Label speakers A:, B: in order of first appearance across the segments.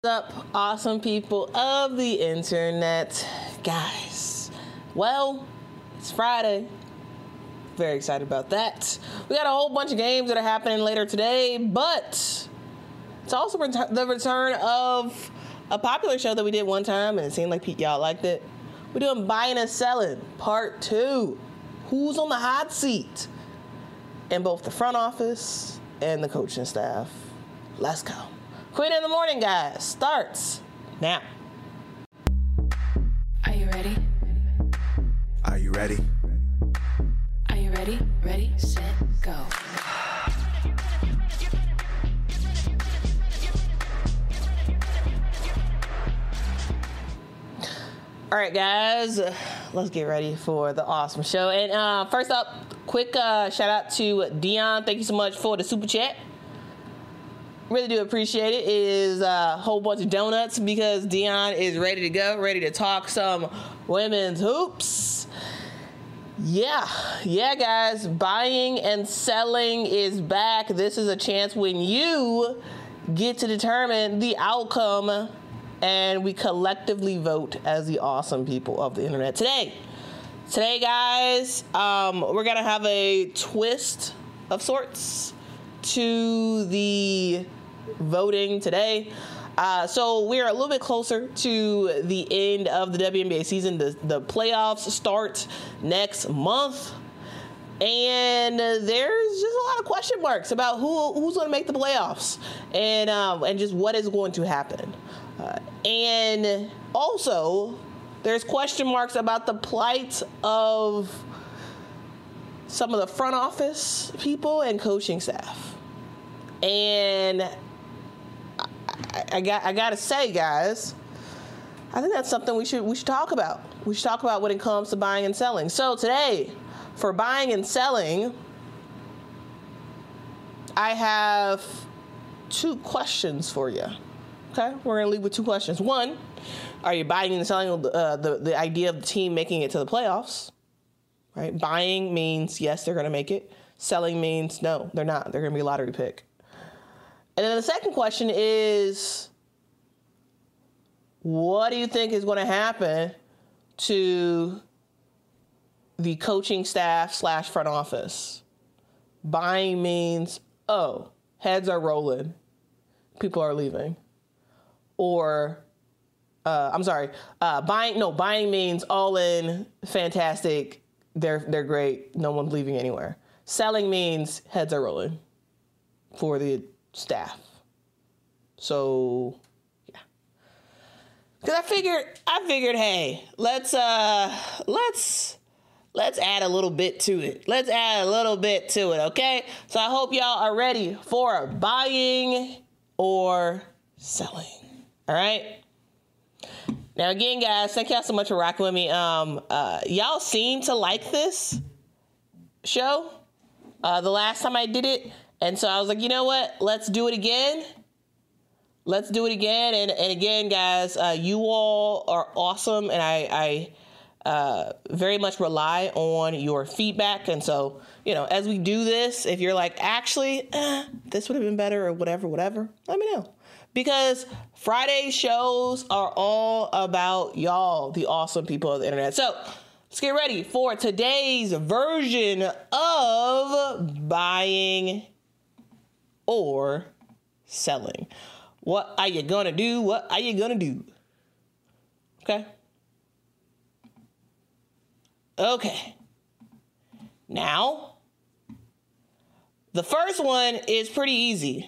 A: Up, awesome people of the internet, guys. Well, it's Friday. Very excited about that. We got a whole bunch of games that are happening later today, but it's also the return of a popular show that we did one time, and it seemed like y'all liked it. We're doing Buying and Selling Part 2. Who's on the hot seat in both the front office and the coaching staff? Let's go. Queen in the Morning, guys, starts now.
B: Are you ready?
C: Are you ready?
B: Are you ready? Ready, set, go.
A: All right, guys, let's get ready for the awesome show. And first up, quick shout out to Dion. Thank you so much for the super chat. Really do appreciate it. It is a whole bunch of donuts because Dion is ready to go, ready to talk some women's hoops. Yeah, guys, buying and selling is back. This is a chance when you get to determine the outcome, and we collectively vote as the awesome people of the internet. Today, guys, we're gonna have a twist of sorts to the voting today. So we're a little bit closer to the end of the WNBA season. The playoffs start next month, and there's just a lot of question marks about who's going to make the playoffs and just what is going to happen. And also, there's question marks about the plight of some of the front office people and coaching staff. And I gotta say, guys, I think that's something we should talk about. We should talk about when it comes to buying and selling. So today, for buying and selling, I have two questions for you. Okay, we're gonna leave with two questions. One, are you buying and selling the idea of the team making it to the playoffs? Right, buying means yes, they're gonna make it. Selling means no, they're not. They're gonna be a lottery pick. And then the second question is, what do you think is going to happen to the coaching staff / front office? Buying means, oh, heads are rolling, people are leaving. Or, buying means all in, fantastic, they're great, no one's leaving anywhere. Selling means heads are rolling for the staff. So, yeah. Because I figured, hey, let's add a little bit to it. Okay? So I hope y'all are ready for buying or selling. All right? Now, again, guys, thank y'all so much for rocking with me. Y'all seem to like this show the last time I did it. And so I was like, you know what? Let's do it again. And again, guys, you all are awesome. And I very much rely on your feedback. And so, as we do this, if you're like, actually, this would have been better or whatever, let me know. Because Friday shows are all about y'all, the awesome people of the internet. So let's get ready for today's version of buying or selling. What are you gonna do? Okay. Now, the first one is pretty easy.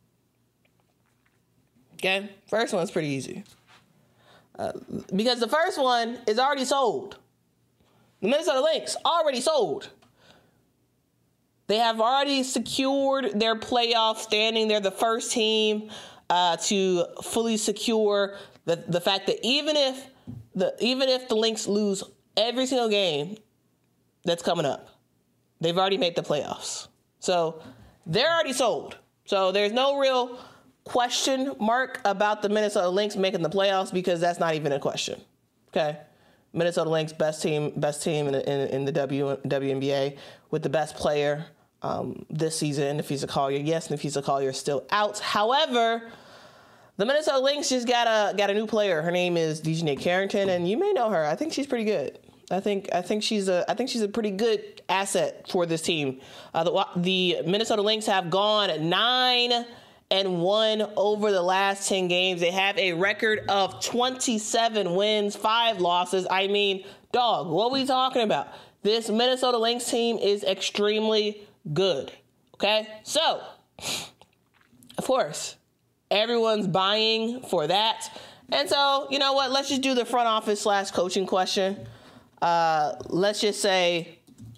A: Okay? First one's pretty easy. Because the first one is already sold. The Minnesota Lynx already sold. They have already secured their playoff standing. They're the first team to fully secure the fact that even if the Lynx lose every single game that's coming up, they've already made the playoffs. So they're already sold. So there's no real question mark about the Minnesota Lynx making the playoffs because that's not even a question. Okay. Minnesota Lynx, best team in the WNBA with the best player this season, Napheesa Collier. Yes, Napheesa Collier is still out. However, The Minnesota Lynx just got a new player. Her name is Dejanay Carrington, and you may know her. I think she's pretty good. I think she's a pretty good asset for this team. The Minnesota Lynx have gone 9-1 over the last 10 games. They have a record of 27 wins, 5 losses. I mean, dog, what are we talking about? This Minnesota Lynx team is extremely good. Okay, so of course, everyone's buying for that. And so, you know what? Let's just do the front office / coaching question. Let's just say,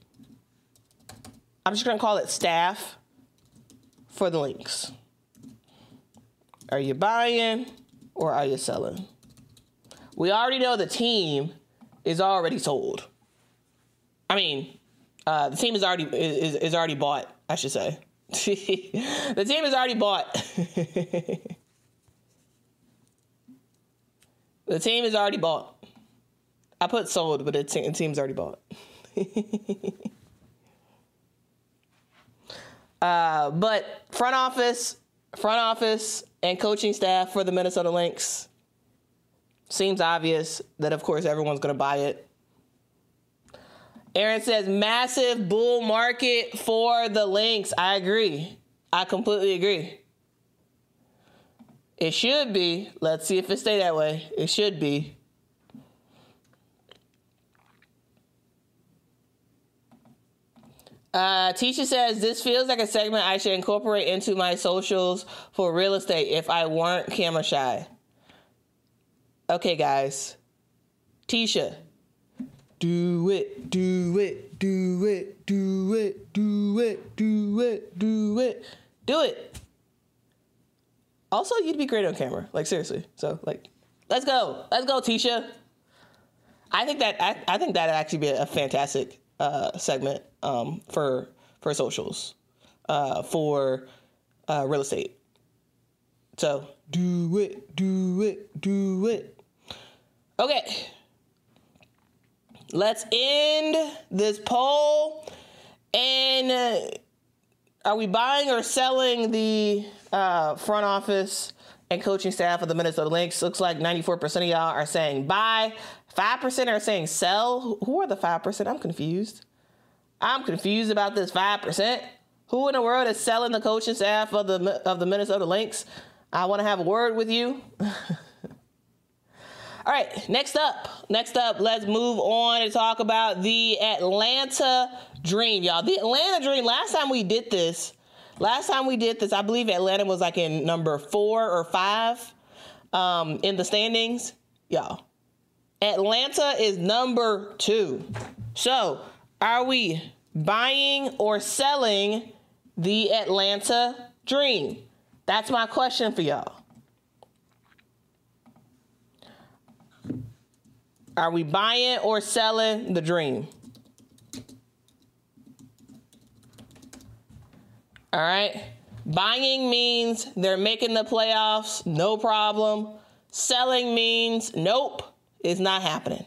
A: I'm just going to call it staff for the Lynx. Are you buying or are you selling? We already know the team is already sold. I mean, the team is already bought, I should say. The team is already bought. The team is already bought. I put sold, but the team's already bought. But front office and coaching staff for the Minnesota Lynx, seems obvious that, of course, everyone's going to buy it. Aaron says, massive bull market for the Lynx. I agree. I completely agree. It should be. Let's see if it stay that way. It should be. Tisha says, this feels like a segment I should incorporate into my socials for real estate if I weren't camera shy. Okay, guys. Tisha. Do it, do it, do it, do it, do it, do it, do it, do it. Also, you'd be great on camera. Like, seriously. So, like, let's go. Let's go, Tisha. I think that'd actually be a fantastic segment for socials for real estate. So, do it, do it, do it. Okay. Let's end this poll. And are we buying or selling the front office and coaching staff of the Minnesota Lynx? Looks like 94% of y'all are saying buy. 5% are saying sell. Who are the 5%? I'm confused. I'm confused about this 5%. Who in the world is selling the coaching staff of the Minnesota Lynx? I want to have a word with you. All right, next up, let's move on and talk about the Atlanta Dream, y'all. The Atlanta Dream, last time we did this, I believe Atlanta was like in number 4 or 5 in the standings. Y'all, Atlanta is number 2. So, are we buying or selling the Atlanta Dream? That's my question for y'all. Are we buying or selling the Dream? All right. Buying means they're making the playoffs, no problem. Selling means nope, it's not happening.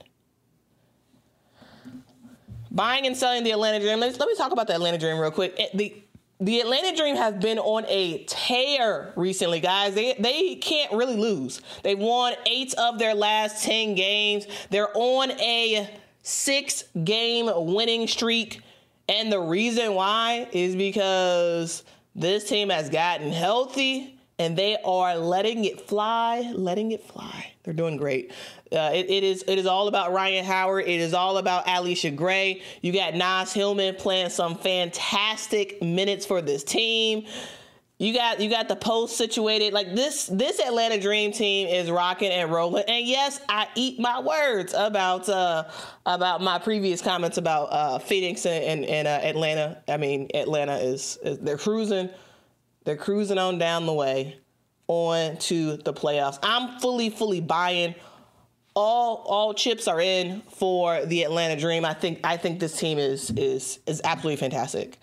A: Buying and selling the Atlanta Dream. Let me talk about the Atlanta Dream real quick. The Atlanta Dream has been on a tear recently, guys. They can't really lose. They've won 8 of their last 10 games. They're on a 6-game winning streak. And the reason why is because this team has gotten healthy and they are letting it fly. They're doing great. It is all about Ryan Howard. It is all about Alicia Gray. You got Nas Hillman playing some fantastic minutes for this team. You got the post situated. Like this Atlanta Dream team is rocking and rolling. And yes, I eat my words about my previous comments about Phoenix and Atlanta. I mean, Atlanta is they're cruising. They're cruising on down the way on to the playoffs. I'm fully buying. All chips are in for the Atlanta Dream. I think this team is absolutely fantastic.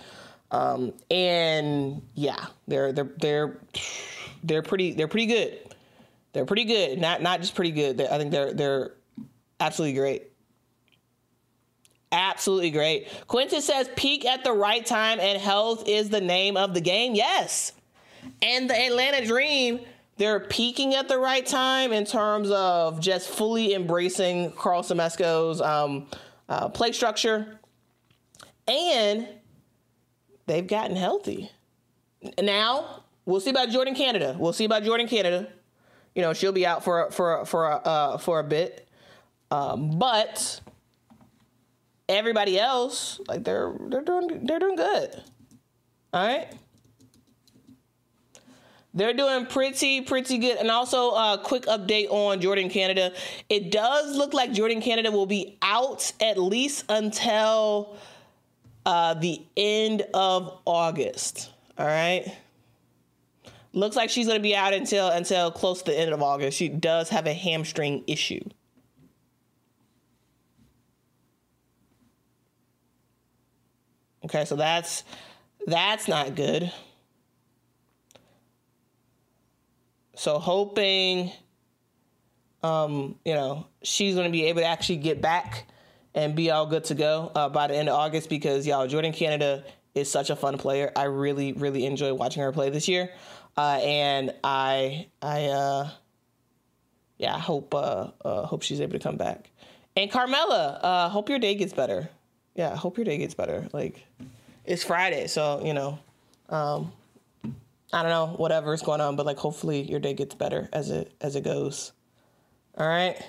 A: And yeah, they're pretty good. They're pretty good. Not just pretty good. I think they're absolutely great. Absolutely great. Quintus says peak at the right time and health is the name of the game. Yes. And the Atlanta Dream they're peaking at the right time in terms of just fully embracing Carl Semesco's play structure. And they've gotten healthy. Now, we'll see about Jordan Canada. You know, she'll be out for a bit. But everybody else, like they're doing good. All right. They're doing pretty good. And also a quick update on Jordan Canada. It does look like Jordan Canada will be out at least until the end of August. All right. Looks like she's going to be out until close to the end of August. She does have a hamstring issue. Okay, so that's not good. So hoping, you know, she's going to be able to actually get back and be all good to go by the end of August because, y'all, Jordan Canada is such a fun player. I really, really enjoy watching her play this year. And I hope she's able to come back. And Carmella, hope your day gets better. Yeah, hope your day gets better. Like, it's Friday, so, you know, I don't know, whatever's going on, but like hopefully your day gets better as it goes. All right.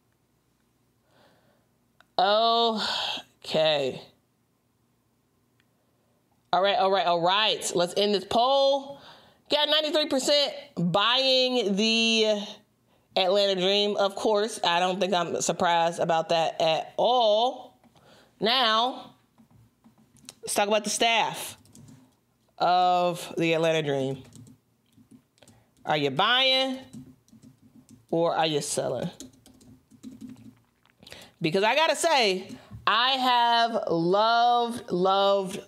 A: Okay. All right. Let's end this poll. Got 93% buying the Atlanta Dream. Of course, I don't think I'm surprised about that at all. Now, let's talk about the staff of the Atlanta Dream. Are you buying or are you selling? Because I gotta say, I have loved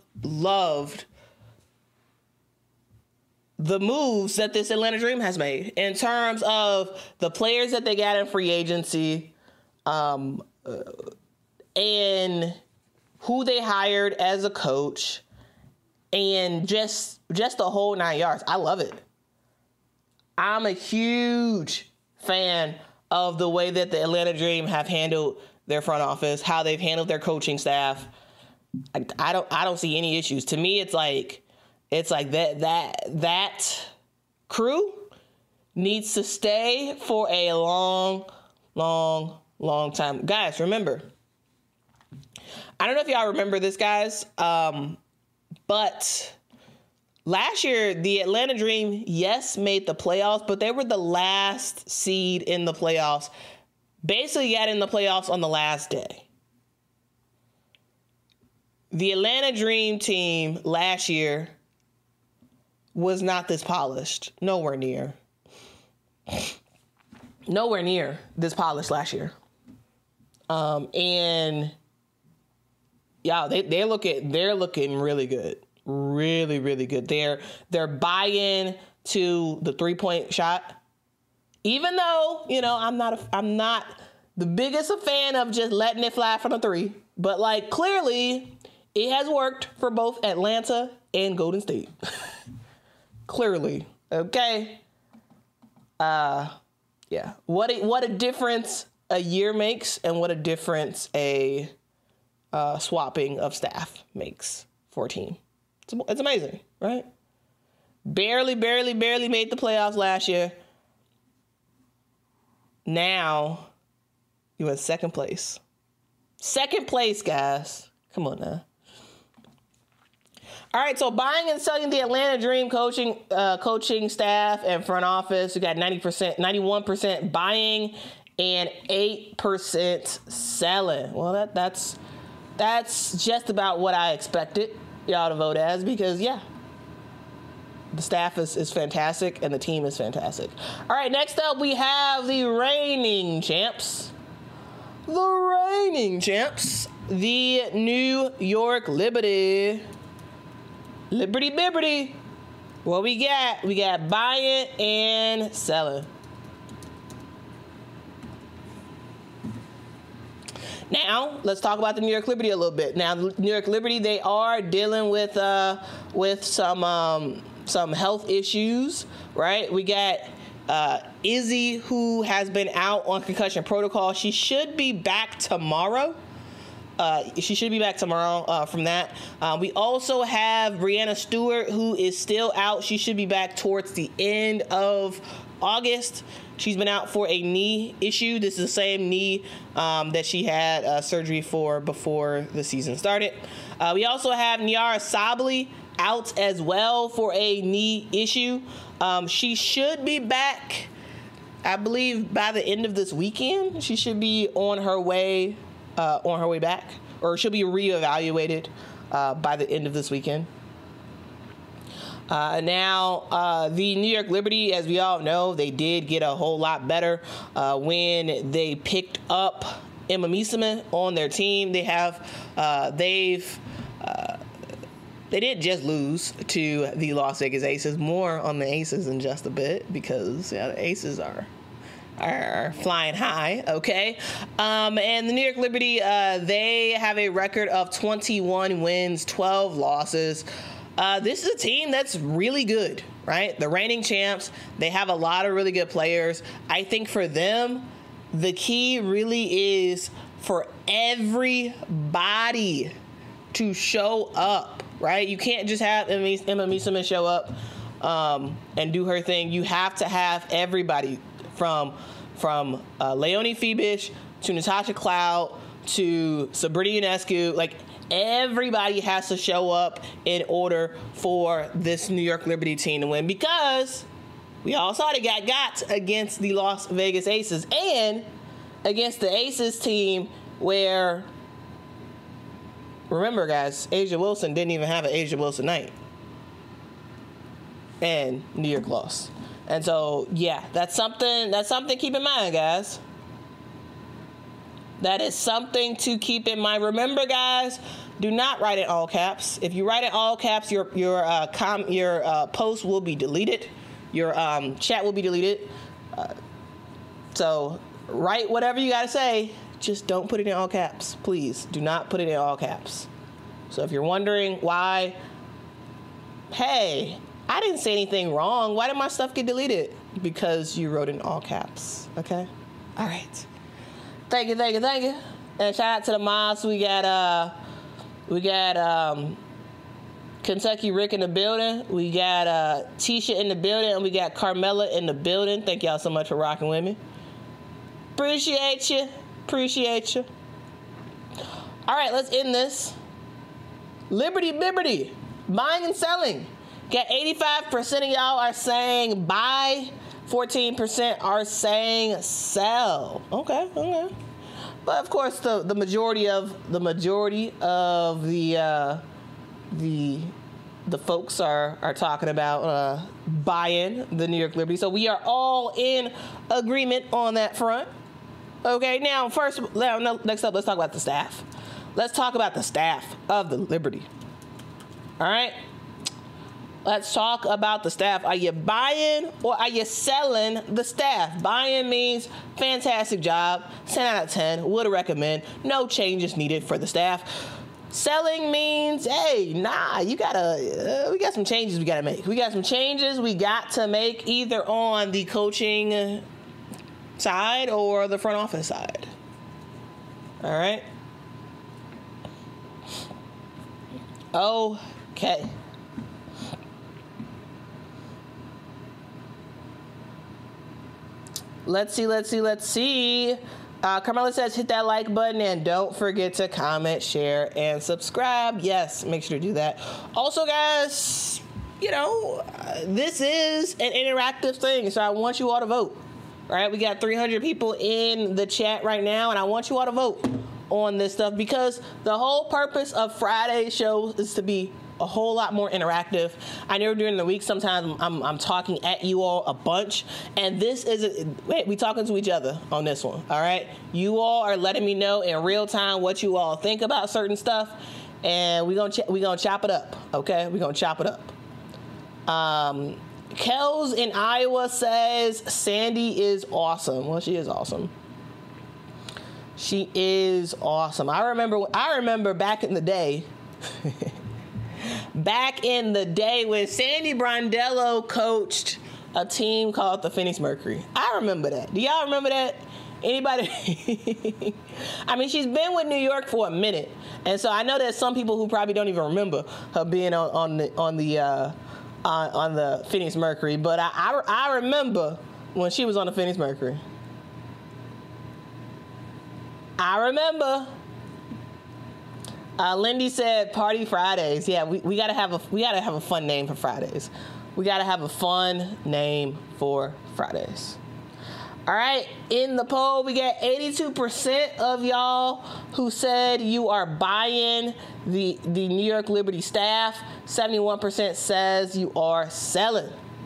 A: the moves that this Atlanta Dream has made in terms of the players that they got in free agency, and who they hired as a coach, and just the whole 9 yards. I love it. I'm a huge fan of the way that the Atlanta Dream have handled their front office, how they've handled their coaching staff. I don't see any issues. To me, it's like that crew needs to stay for a long time. Guys, remember, I don't know if y'all remember this, guys, but last year, the Atlanta Dream, yes, made the playoffs, but they were the last seed in the playoffs. Basically got in the playoffs on the last day. The Atlanta Dream team last year was not this polished. Nowhere near this polished last year. And yeah, they're looking really good. Really, really good. They're buying to the 3-point shot. Even though, you know, I'm not the biggest fan of just letting it fly from the 3, but like clearly it has worked for both Atlanta and Golden State. Clearly. Okay. Yeah. What a difference a year makes, and what a difference a swapping of staff makes for a team. It's amazing, right? Barely made the playoffs last year. Now, you in second place. Second place, guys. Come on now. All right, so buying and selling the Atlanta Dream coaching staff and front office. We got 91% buying and 8% selling. Well, that's just about what I expected y'all to vote as, because yeah, the staff is fantastic and the team is fantastic. All right, next up we have the reigning champs. The New York Liberty. Liberty Bibberty. What we got? We got buying and selling. Now, let's talk about the New York Liberty a little bit. Now, the New York Liberty, they are dealing with some health issues, right? We got Izzy, who has been out on concussion protocol, she should be back tomorrow. From that. We also have Breanna Stewart, who is still out. She should be back towards the end of August. She's been out for a knee issue. This is the same knee that she had surgery for before the season started. We also have Nyara Sabally out as well for a knee issue. She should be back, I believe, by the end of this weekend. She should be on her way back, or she'll be reevaluated by the end of this weekend. Now, the New York Liberty, as we all know, they did get a whole lot better when they picked up Emma Meesseman on their team. They didn't just lose to the Las Vegas Aces. More on the Aces in just a bit, because the Aces are flying high, okay? And the New York Liberty, they have a record of 21 wins, 12 losses. This is a team that's really good, right? The reigning champs. They have a lot of really good players. I think for them, the key really is for everybody to show up, right? You can't just have Emma Meesseman show up and do her thing. You have to have everybody from Leonie Fibish to Natasha Cloud to Sabrina Ionescu. Like, everybody has to show up in order for this New York Liberty team to win, because we all saw they got against the Las Vegas Aces and against the Aces team where, remember guys, A'ja Wilson didn't even have an A'ja Wilson night. And New York lost. And so, yeah, that's something to keep in mind, guys. That is something to keep in mind. Remember, guys, do not write in all caps. If you write in all caps, your post will be deleted. Your chat will be deleted. So write whatever you got to say. Just don't put it in all caps. Please do not put it in all caps. So if you're wondering why, hey, I didn't say anything wrong. Why did my stuff get deleted? Because you wrote in all caps. Okay? All right. Thank you. And shout out to the mods. We got Kentucky Rick in the building. We got Tisha in the building, and we got Carmela in the building. Thank y'all so much for rocking with me. Appreciate you. All right, let's end this. Liberty Bibberty. Buying and selling. Got 85% of y'all are saying buy. 14% are saying sell. Okay. But of course, the majority of the folks are talking about buying the New York Liberty. So we are all in agreement on that front. Okay. Now, next up, let's talk about the staff. Let's talk about the staff of the Liberty. All right. Let's talk about the staff. Are you buying or are you selling the staff? Buying means fantastic job, 10 out of 10, would recommend, no changes needed for the staff. Selling means, hey, we got some changes we got to make. We got some changes we got to make either on the coaching side or the front office side. All right. Okay. Let's see. Carmela says hit that like button and don't forget to comment, share, and subscribe. Yes, make sure to do that. Also, guys, this is an interactive thing, so I want you all to vote. All right, we got 300 people in the chat right now, and I want you all to vote on this stuff, because the whole purpose of Friday's show is to be a whole lot more interactive. I know during the week sometimes I'm talking at you all a bunch, and this is we talking to each other on this one. All right, you all are letting me know in real time what you all think about certain stuff, and we gonna chop it up. Okay, we gonna chop it up. Kels in Iowa says Sandy is awesome. Well, she is awesome. She is awesome. I remember back in the day. Back in the day when Sandy Brondello coached a team called the Phoenix Mercury. I remember that. Do y'all remember that? Anybody? I mean, she's been with New York for a minute, and so I know there's some people who probably don't even remember her being on the Phoenix Mercury. But I remember when she was on the Phoenix Mercury. I remember. Lindy said Party Fridays. Yeah, we gotta have a fun name for Fridays. We gotta have a fun name for Fridays. All right, in the poll, we got 82% of y'all who said you are buying the New York Liberty staff. 71% says you are selling.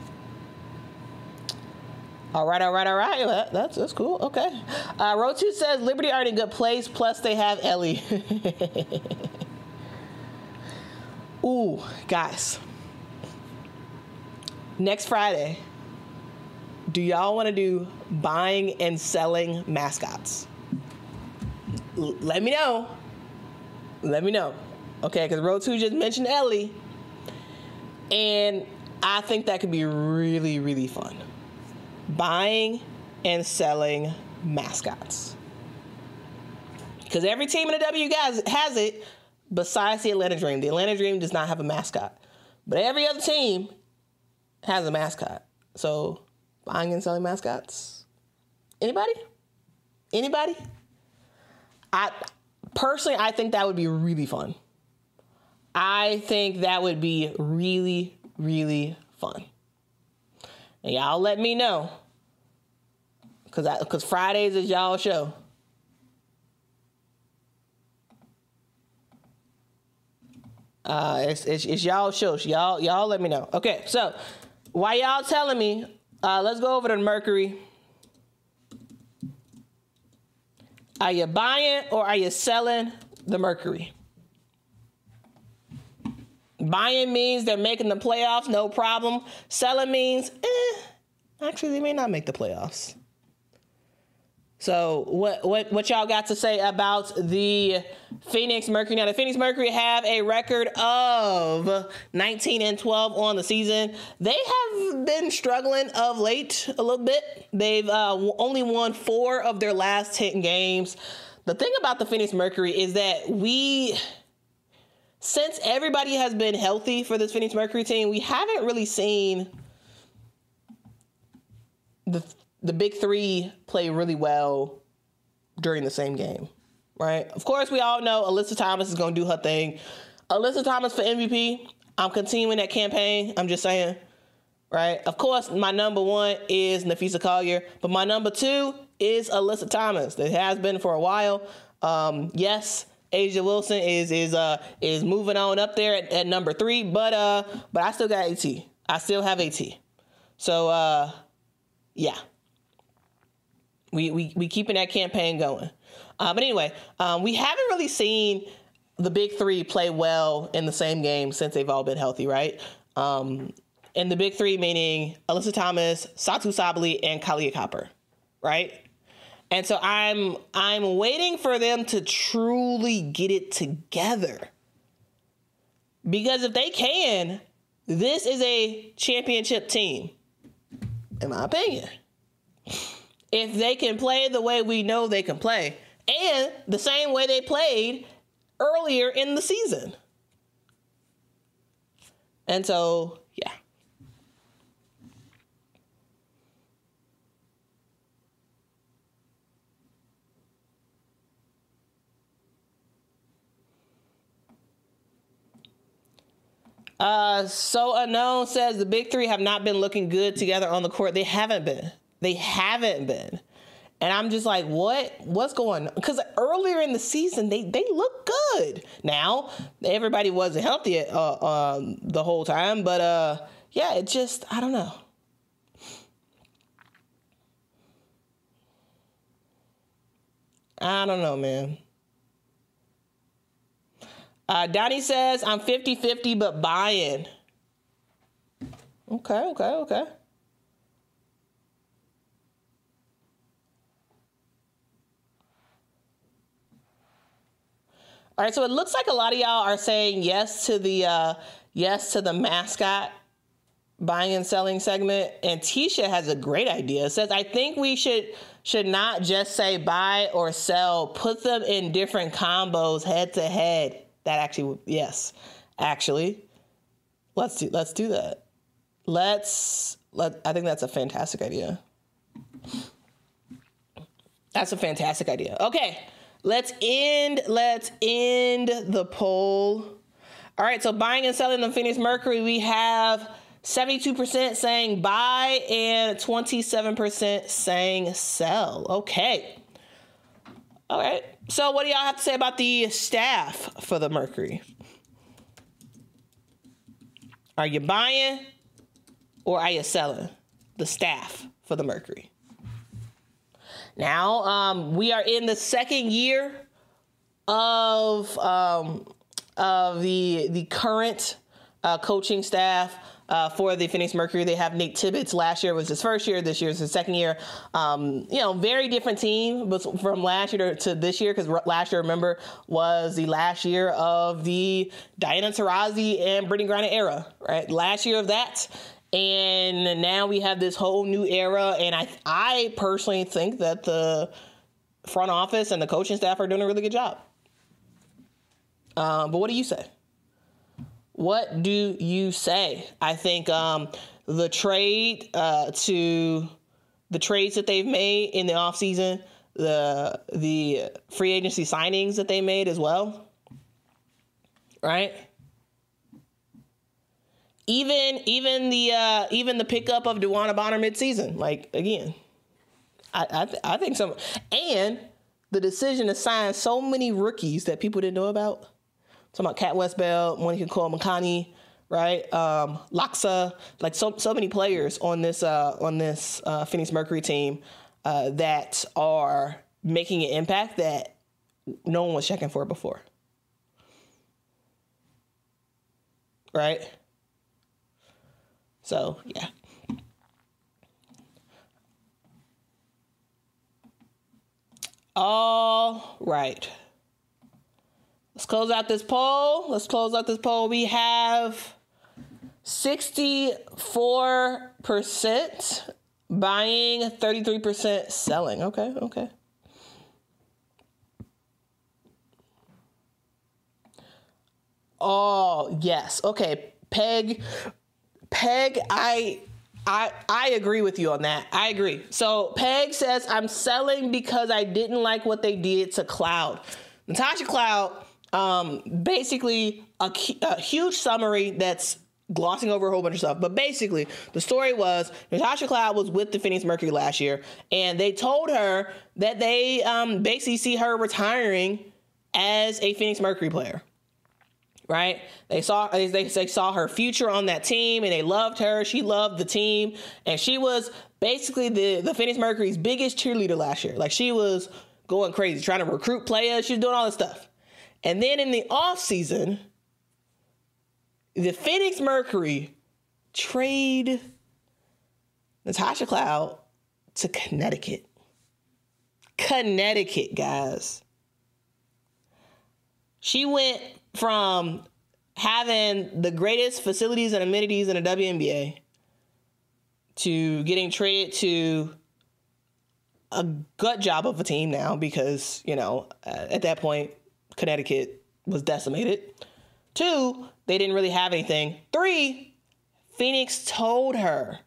A: All right. Well, that's cool. Okay. Rotu says Liberty are in a good place. Plus, they have Ellie. Ooh, guys. Next Friday, do y'all want to do buying and selling mascots? Let me know. Okay, because Rotu just mentioned Ellie. And I think that could be really, really fun. Buying and selling mascots. Because every team in the W guys has it, besides the Atlanta Dream. The Atlanta Dream does not have a mascot. But every other team has a mascot. So, buying and selling mascots? Anybody? I think that would be really fun. I think that would be really, really fun. And y'all let me know. Because Fridays is y'all show. It's y'all show. Y'all let me know. Okay, so while y'all telling me, let's go over to Mercury. Are you buying or are you selling the Mercury? Buying means they're making the playoffs, no problem. Selling means, actually, they may not make the playoffs. So what y'all got to say about the Phoenix Mercury? Now, the Phoenix Mercury have a record of 19-12 on the season. They have been struggling of late a little bit. They've only won 4 of their last 10 games. The thing about the Phoenix Mercury is that since everybody has been healthy for this Phoenix Mercury team, we haven't really seen the big three play really well during the same game, right? Of course, we all know Alyssa Thomas is going to do her thing. Alyssa Thomas for MVP. I'm continuing that campaign. I'm just saying, right? Of course, my number 1 is Napheesa Collier, but my number 2 is Alyssa Thomas. It has been for a while. Yes, A'ja Wilson is moving on up there at number 3, but I still got AT. I still have AT. So yeah. We keeping that campaign going. But anyway, we haven't really seen the big three play well in the same game since they've all been healthy, right? And the big three meaning Alyssa Thomas, Satou Sabally, and Kahleah Copper, right? And so I'm waiting for them to truly get it together. Because if they can, this is a championship team, in my opinion. If they can play the way we know they can play, and the same way they played earlier in the season. And so, yeah. So Unknown says the big three have not been looking good together on the court. They haven't been. And I'm just like, what's going on? Because earlier in the season, they look good. Now, everybody wasn't healthy the whole time. But, yeah, it just, I don't know. I don't know, man. Donnie says, I'm 50-50, but buying. Okay. All right, so it looks like a lot of y'all are saying yes to the mascot buying and selling segment, and Tisha has a great idea. It says, I think we should not just say buy or sell, put them in different combos head to head. That actually, yes, actually, let's do that. I think that's a fantastic idea. That's a fantastic idea. Okay, let's end the poll. All right, so buying and selling the Phoenix Mercury, we have 72% saying buy and 27% saying sell. Okay. All right. So what do y'all have to say about the staff for the Mercury? Are you buying or are you selling the staff for the Mercury? Now, we are in the second year of the current coaching staff for the Phoenix Mercury. They have Nate Tibbetts. Last year was his first year. This year is his second year. Very different team from last year to this year, because last year, remember, was the last year of the Diana Taurasi and Brittney Griner era, right? Last year of that. And now we have this whole new era. And I personally think that the front office and the coaching staff are doing a really good job. But what do you say? What do you say? I think the trades that they've made in the offseason, the free agency signings that they made as well, right? Even the pickup of DeWanna Bonner midseason, like, again, I think some, and the decision to sign so many rookies that people didn't know about. Talking about Kat Westbell, Monica Cole-Makani, right? Laksa, like so many players on this Phoenix Mercury team that are making an impact that no one was checking for before, right? So yeah. All right. Let's close out this poll. We have 64% buying, 33% selling. Okay. Oh, yes. Okay. Peg, I agree with you on that. I agree. So Peg says, I'm selling because I didn't like what they did to Cloud. Natasha Cloud, basically a huge summary that's glossing over a whole bunch of stuff. But basically, the story was Natasha Cloud was with the Phoenix Mercury last year, and they told her that they basically see her retiring as a Phoenix Mercury player. Right? They saw her future on that team, and they loved her. She loved the team, and she was basically the Phoenix Mercury's biggest cheerleader last year. Like, she was going crazy, trying to recruit players. She was doing all this stuff. And then in the offseason, the Phoenix Mercury trade Natasha Cloud to Connecticut. Connecticut, guys. She went from having the greatest facilities and amenities in the WNBA to getting traded to a gut job of a team now because, at that point, Connecticut was decimated. 2, they didn't really have anything. 3, Phoenix told her.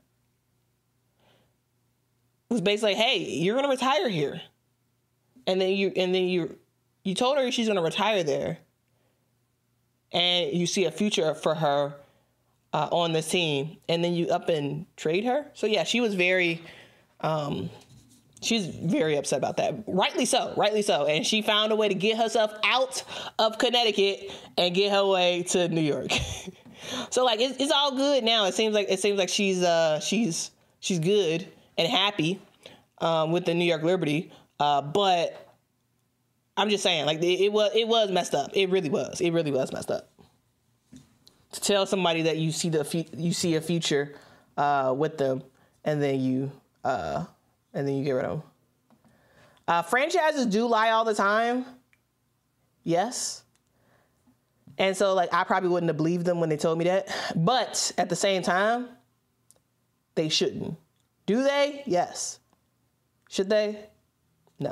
A: It was basically, hey, you're going to retire here. And then you told her she's going to retire there. And you see a future for her on this team, and then you up and trade her. So yeah, she was very upset about that. Rightly so. And she found a way to get herself out of Connecticut and get her way to New York. So like it's all good now. It seems like she's good and happy with the New York Liberty. But I'm just saying, like, it was messed up. It really was messed up. To tell somebody that you see a future with them, and then you get rid of them. Franchises do lie all the time. Yes. And so, like, I probably wouldn't have believed them when they told me that. But at the same time, they shouldn't. Do they? Yes. Should they? No.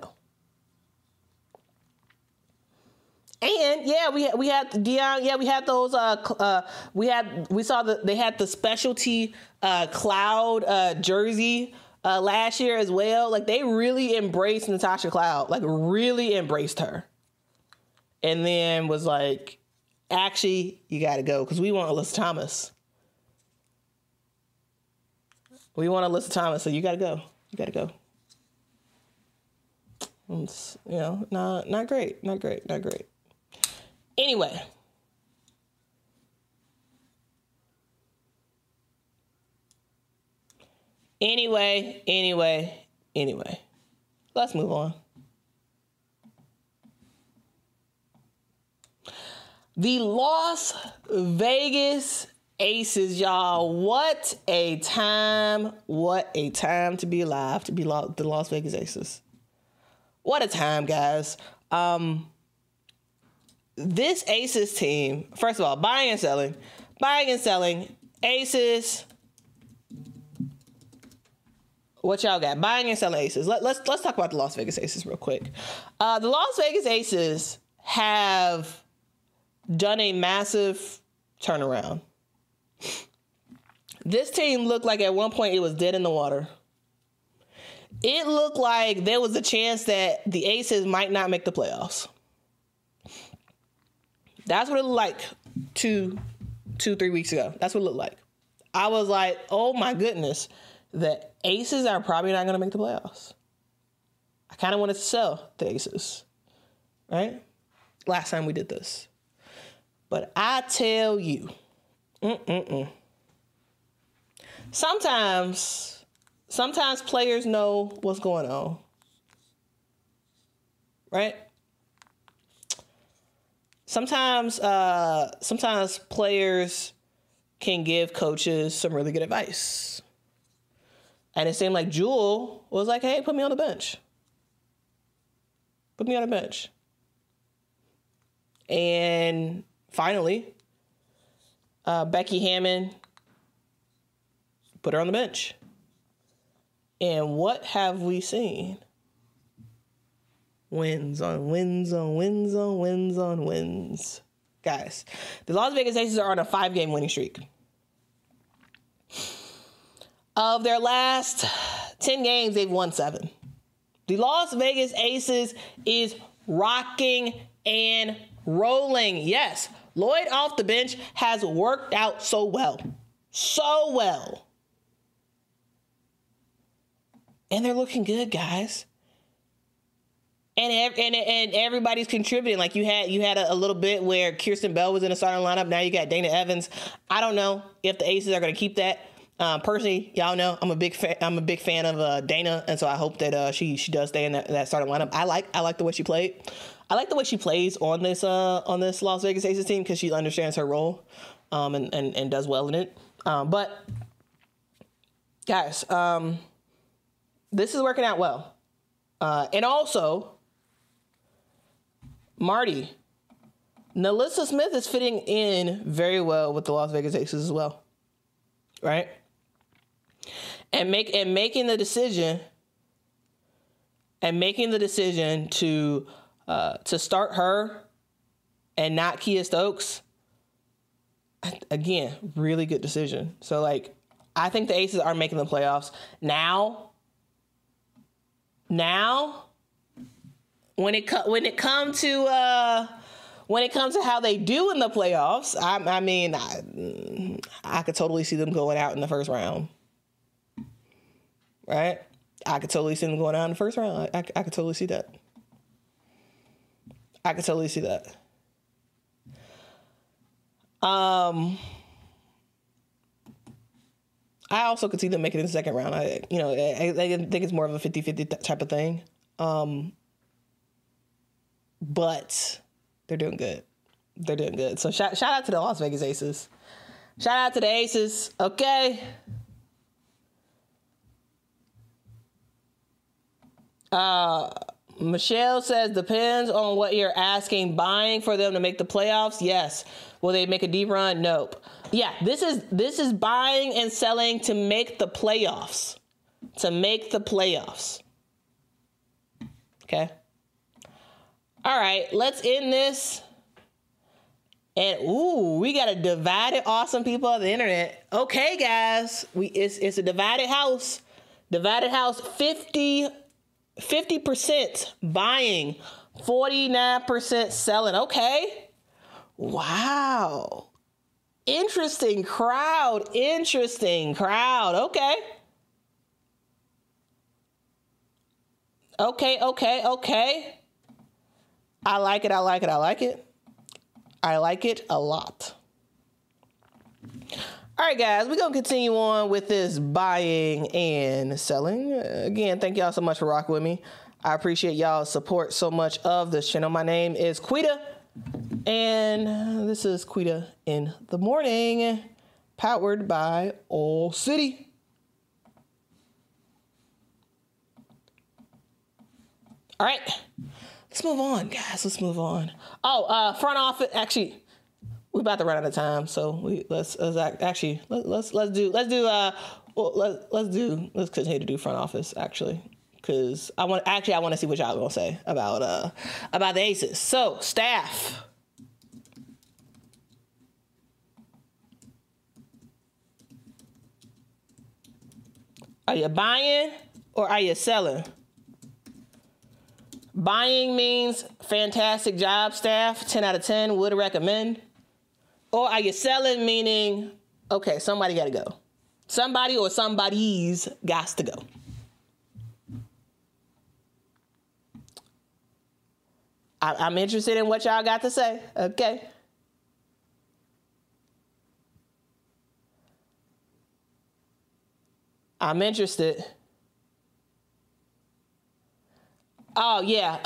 A: And yeah, we had Deion. Yeah, we had those. We saw they had the specialty Cloud jersey last year as well. Like, they really embraced Natasha Cloud. Like, really embraced her. And then was like, actually, you got to go because we want Alyssa Thomas. We want Alyssa Thomas, so you got to go. You got to go. It's, not great. Anyway. Let's move on. The Las Vegas Aces, y'all. What a time to be alive, to be the Las Vegas Aces. What a time, guys. This Aces team, first of all, buying and selling, Aces. What y'all got? Buying and selling Aces. Let's talk about the Las Vegas Aces real quick. The Las Vegas Aces have done a massive turnaround. This team looked like at one point it was dead in the water. It looked like there was a chance that the Aces might not make the playoffs. That's what it looked like 3 weeks ago. That's what it looked like. I was like, oh my goodness, the Aces are probably not going to make the playoffs. I kind of wanted to sell the Aces, right? Last time we did this. But I tell you, sometimes players know what's going on, right? Sometimes players can give coaches some really good advice. And it seemed like Jewel was like, hey, put me on the bench. Put me on the bench. And finally, Becky Hammon put her on the bench. And what have we seen? Wins on wins on wins on wins on wins. Guys, the Las Vegas Aces are on a 5-game winning streak. Of their last 10 games, they've won 7. The Las Vegas Aces is rocking and rolling. Yes, Lloyd off the bench has worked out so well. So well. And they're looking good, guys. And everybody's contributing. Like you had a little bit where Kirsten Bell was in the starting lineup. Now you got Dana Evans. I don't know if the Aces are going to keep that. Personally, y'all know I'm a big fan of Dana, and so I hope that she does stay in that starting lineup. I like the way she played. I like the way she plays on this Las Vegas Aces team because she understands her role, and does well in it. But guys, this is working out well, and also Marty, NaLyssa Smith is fitting in very well with the Las Vegas Aces as well, right? And making the decision to start her and not Kia Stokes, again, really good decision. So like, I think the Aces are making the playoffs now. When it comes to how they do in the playoffs, I could totally see them going out in the first round. Right? I could totally see them going out in the first round. I could totally see that. I also could see them making it in the second round. I think it's more of a 50-50 type of thing. But they're doing good. So shout out to the Las Vegas Aces. Shout out to the Aces. Okay. Michelle says, depends on what you're asking. Buying for them to make the playoffs? Yes. Will they make a deep run? Nope. Yeah, this is buying and selling to make the playoffs. To make the playoffs. Okay. All right, let's end this. And we got a divided awesome people on the internet. Okay, guys, it's a divided house. Divided house, 50% buying, 49% selling. Okay. Wow. Interesting crowd. Okay. Okay. I like it. I like it a lot. All right, guys, we're going to continue on with this buying and selling. Again, thank y'all so much for rocking with me. I appreciate y'all's support so much of this channel. My name is Quita, and this is Quita in the Morning, powered by All City. All right, let's move on, guys. Let's move on. Front office. Actually, we're about to run out of time, so let's continue to do front office actually, because I want to see what y'all gonna say about the Aces. So staff. Are you buying or are you selling? Buying means fantastic job, staff, 10 out of 10, would recommend. Or are you selling, meaning, okay, somebody got to go. Somebody or somebody's got to go. I'm interested in what y'all got to say, okay? I'm interested. Oh, yeah.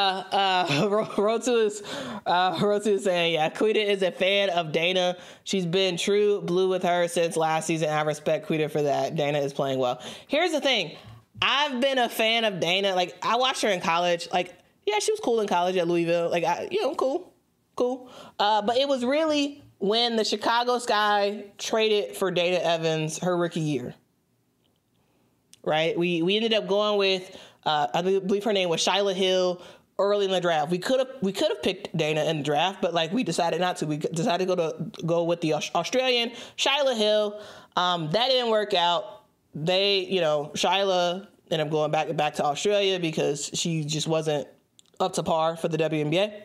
A: Rotu is saying, yeah, Quita is a fan of Dana. She's been true blue with her since last season. I respect Quita for that. Dana is playing well. Here's the thing. I've been a fan of Dana. Like, I watched her in college. Like, yeah, she was cool in college at Louisville. Like, cool. But it was really when the Chicago Sky traded for Dana Evans her rookie year. Right? We ended up going with... I believe her name was Shyla Hill early in the draft. We could have picked Dana in the draft, but like we decided not to. We decided to go with the Australian Shyla Hill. That didn't work out. Shyla ended up going back to Australia because she just wasn't up to par for the WNBA.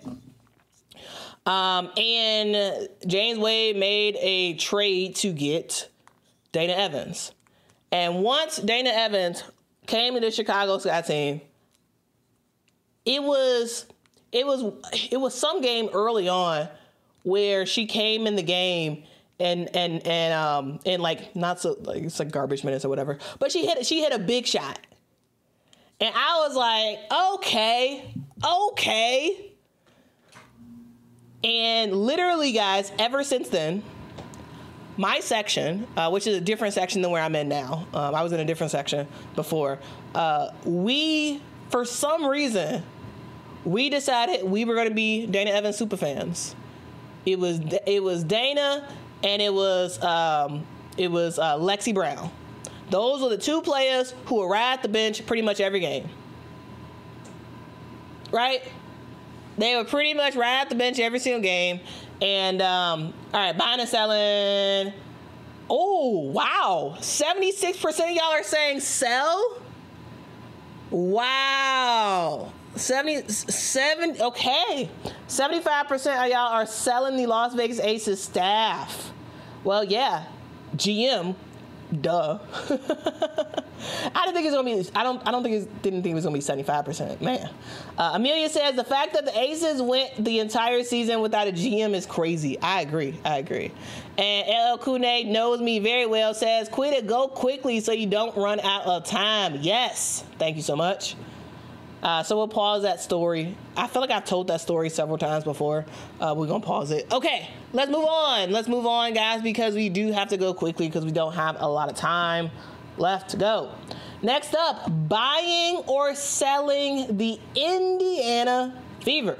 A: And James Wade made a trade to get Dana Evans. And once Dana Evans came to the Chicago Sky team, it was some game early on where she came in the game and like not so like it's like garbage minutes or whatever, but she hit a big shot, and I was like, okay, and literally, guys, ever since then. My section, which is a different section than where I'm in now. I was in a different section before. For some reason, we decided we were going to be Dana Evans super fans. It was Dana and it was Lexi Brown. Those were the two players who were right at the bench pretty much every game. Right? They were pretty much right at the bench every single game. And, all right, buying and selling. Oh, wow. 76% of y'all are saying sell? Wow. 77, okay. 75% of y'all are selling the Las Vegas Aces staff. Well, yeah, GM, duh. Didn't think it was gonna be 75%. Man. Amelia says the fact that the Aces went the entire season without a GM is crazy. I agree. And LL Kune knows me very well, says quit it, go quickly so you don't run out of time. Yes. Thank you so much. So we'll pause that story. I feel like I've told that story several times before. We're gonna pause it. Okay, let's move on, guys, because we do have to go quickly because we don't have a lot of time left to go. Next up, buying or selling the Indiana Fever.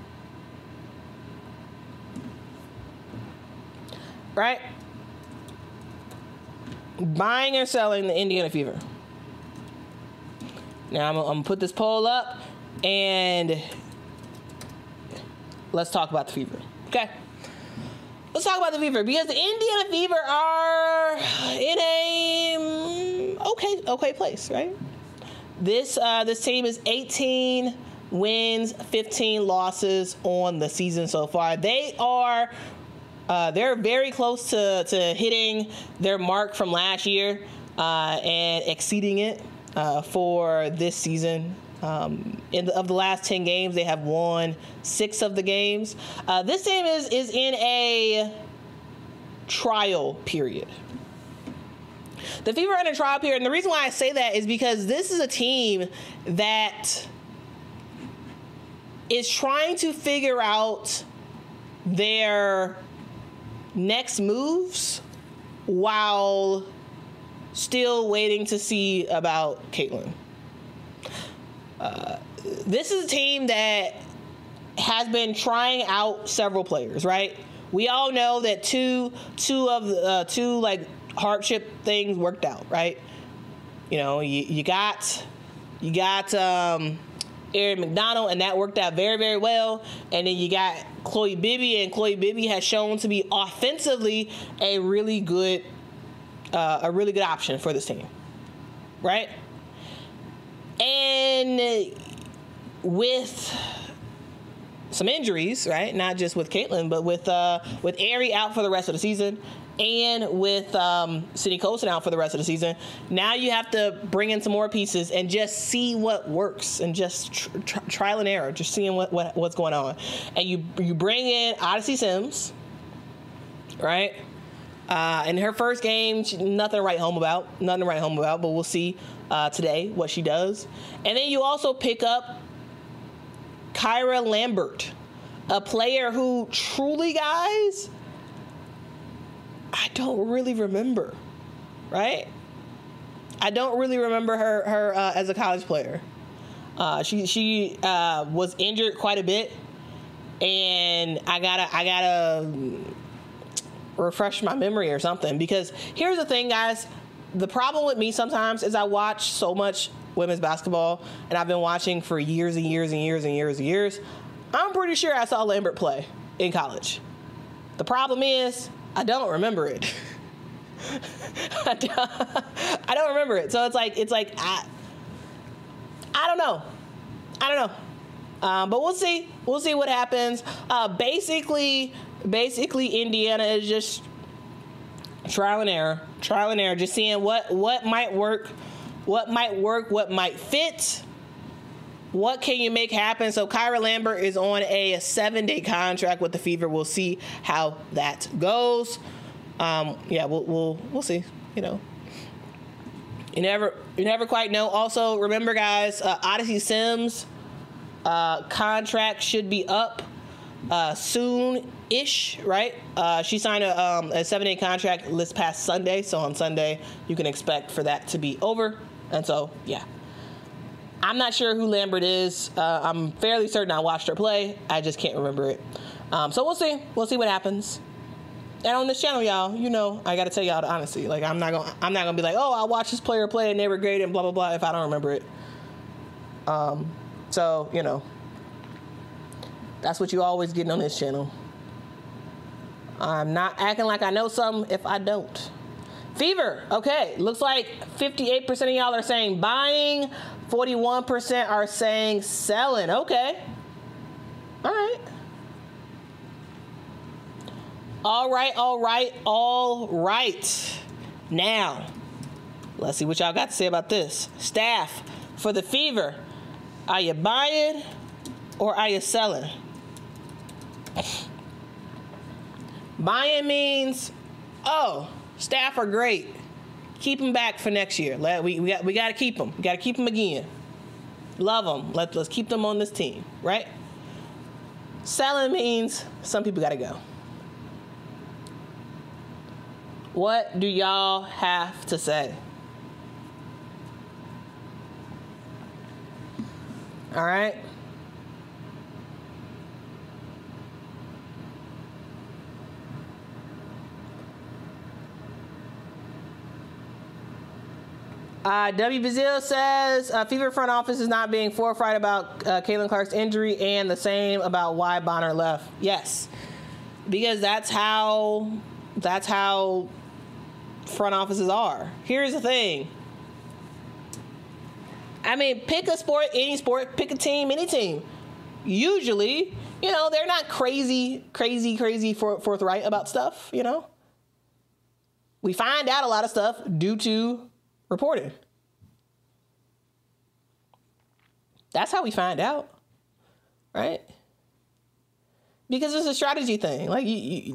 A: Right? Buying or selling the Indiana Fever. Now, I'm going to put this poll up, and let's talk about the Fever. Okay? Let's talk about the Fever, because the Indiana Fever are in a okay place, right? This team is 18 wins, 15 losses on the season so far. They're very close to hitting their mark from last year and exceeding it for this season. Of the last 10 games, they have won 6 of the games. This team is in a trial period. The Fever are in a trial period, and the reason why I say that is because this is a team that is trying to figure out their next moves while still waiting to see about Caitlin. This is a team that has been trying out several players, right? We all know that two like hardship things worked out, right? You know, you got Erin McDonald, and that worked out very, very well. And then you got Chloe Bibby, and Chloe Bibby has shown to be offensively a really good option for this team, right? And with some injuries, right? Not just with Caitlin, but with Ari out for the rest of the season, and with Sydney Colson out for the rest of the season. Now you have to bring in some more pieces and just see what works, and just trial and error, just seeing what's going on. And you bring in Odyssey Sims, right? In her first game, nothing to write home about, but we'll see today what she does. And then you also pick up Kyra Lambert, a player who truly, guys, I don't really remember, right? I don't really remember her as a college player. She was injured quite a bit, and I gotta refresh my memory or something, because here's the thing, guys. The problem with me sometimes is I watch so much women's basketball, and I've been watching for years and years and years and years and years. I'm pretty sure I saw Lambert play in college. The problem is I don't remember it. I don't remember it. So it's like I don't know. But we'll see. We'll see what happens. Basically, Indiana is just trial and error, just seeing what might work, what might fit, what can you make happen. So Kyra Lambert is on a 7-day contract with the Fever. We'll see how that goes. We'll see. You know, you never quite know. Also, remember, guys, Odyssey Sims contract should be up soon-ish, right? She signed a 7-day contract this past Sunday, so on Sunday you can expect for that to be over. And so, yeah. I'm not sure who Lambert is. I'm fairly certain I watched her play. I just can't remember it. So we'll see. We'll see what happens. And on this channel, y'all, you know, I got to tell y'all the honesty. Like, I'm not gonna be like, oh, I watched this player play and they were great and blah blah blah if I don't remember it. So you know, that's what you always getting on this channel. I'm not acting like I know something if I don't. Fever, okay. Looks like 58% of y'all are saying buying, 41% are saying selling. Okay. All right. All right. Now, let's see what y'all got to say about this. Staff, for the Fever, are you buying or are you selling? Buying means, oh, staff are great. Keep them back for next year. We got to keep them. We got to keep them again. Love them. Let's keep them on this team, right? Selling means some people got to go. What do y'all have to say? All right. W. Bazil says Fever front office is not being forthright about Caitlin Clark's injury, and the same about why Bonner left. Yes, because that's how front offices are. Here's the thing. I mean, pick a sport, any sport, pick a team, any team. Usually, they're not crazy forthright about stuff, We find out a lot of stuff due to reporting. That's how we find out, right? Because it's a strategy thing. Like,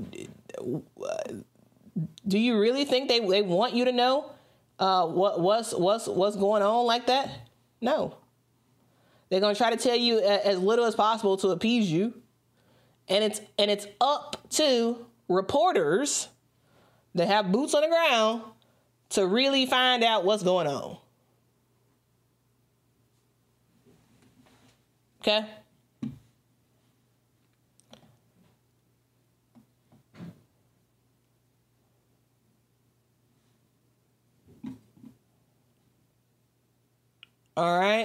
A: do you really think they want you to know what's going on like that? No. They're gonna try to tell you as little as possible to appease you, and it's up to reporters that have boots on the ground to really find out what's going on. Okay? All right.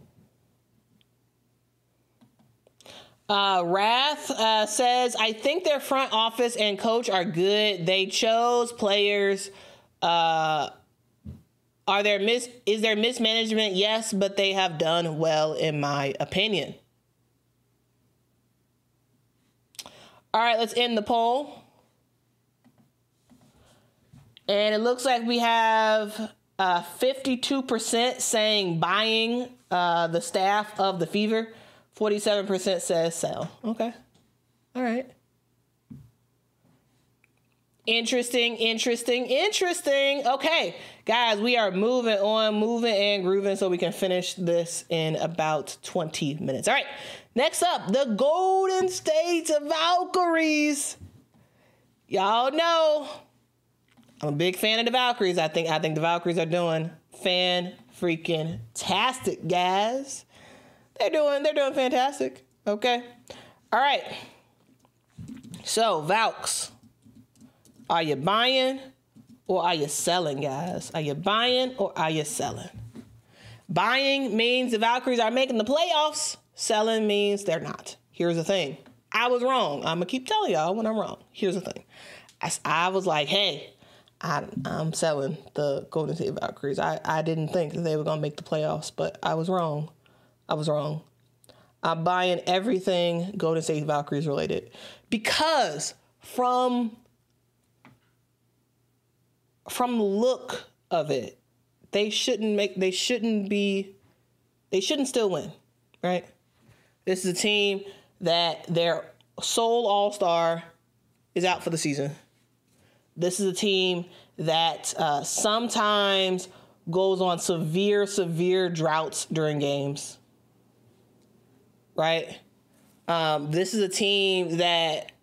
A: Wrath says, I think their front office and coach are good. They chose players. Is there mismanagement? Yes, but they have done well, in my opinion. All right, let's end the poll. And it looks like we have 52% saying buying the staff of the Fever. 47% says sell. Okay. All right. Interesting. Okay, guys, we are moving and grooving so we can finish this in about 20 minutes. All right, next up, the Golden State Valkyries. Y'all know I'm a big fan of the Valkyries. I think the Valkyries are doing fan-freaking-tastic, guys. They're doing fantastic. Okay. All right. So, Valks. Are you buying or are you selling, guys? Are you buying or are you selling? Buying means the Valkyries are making the playoffs. Selling means they're not. Here's the thing. I was wrong. I'm going to keep telling y'all when I'm wrong. Here's the thing. I was like, hey, I'm selling the Golden State Valkyries. I didn't think that they were going to make the playoffs, but I was wrong. I'm buying everything Golden State Valkyries related because from the look of it, they shouldn't still win, right? This is a team that their sole all-star is out for the season. This is a team that sometimes goes on severe droughts during games, right? This is a team that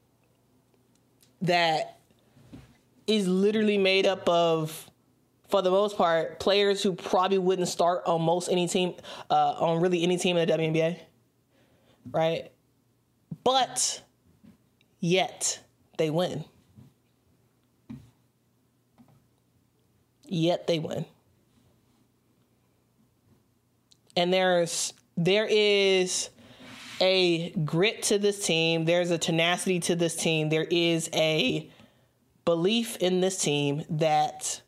A: is literally made up of, for the most part, players who probably wouldn't start on most any team, on really any team in the WNBA, right? But yet they win. And there is a grit to this team. There's a tenacity to this team. There is a belief in this team that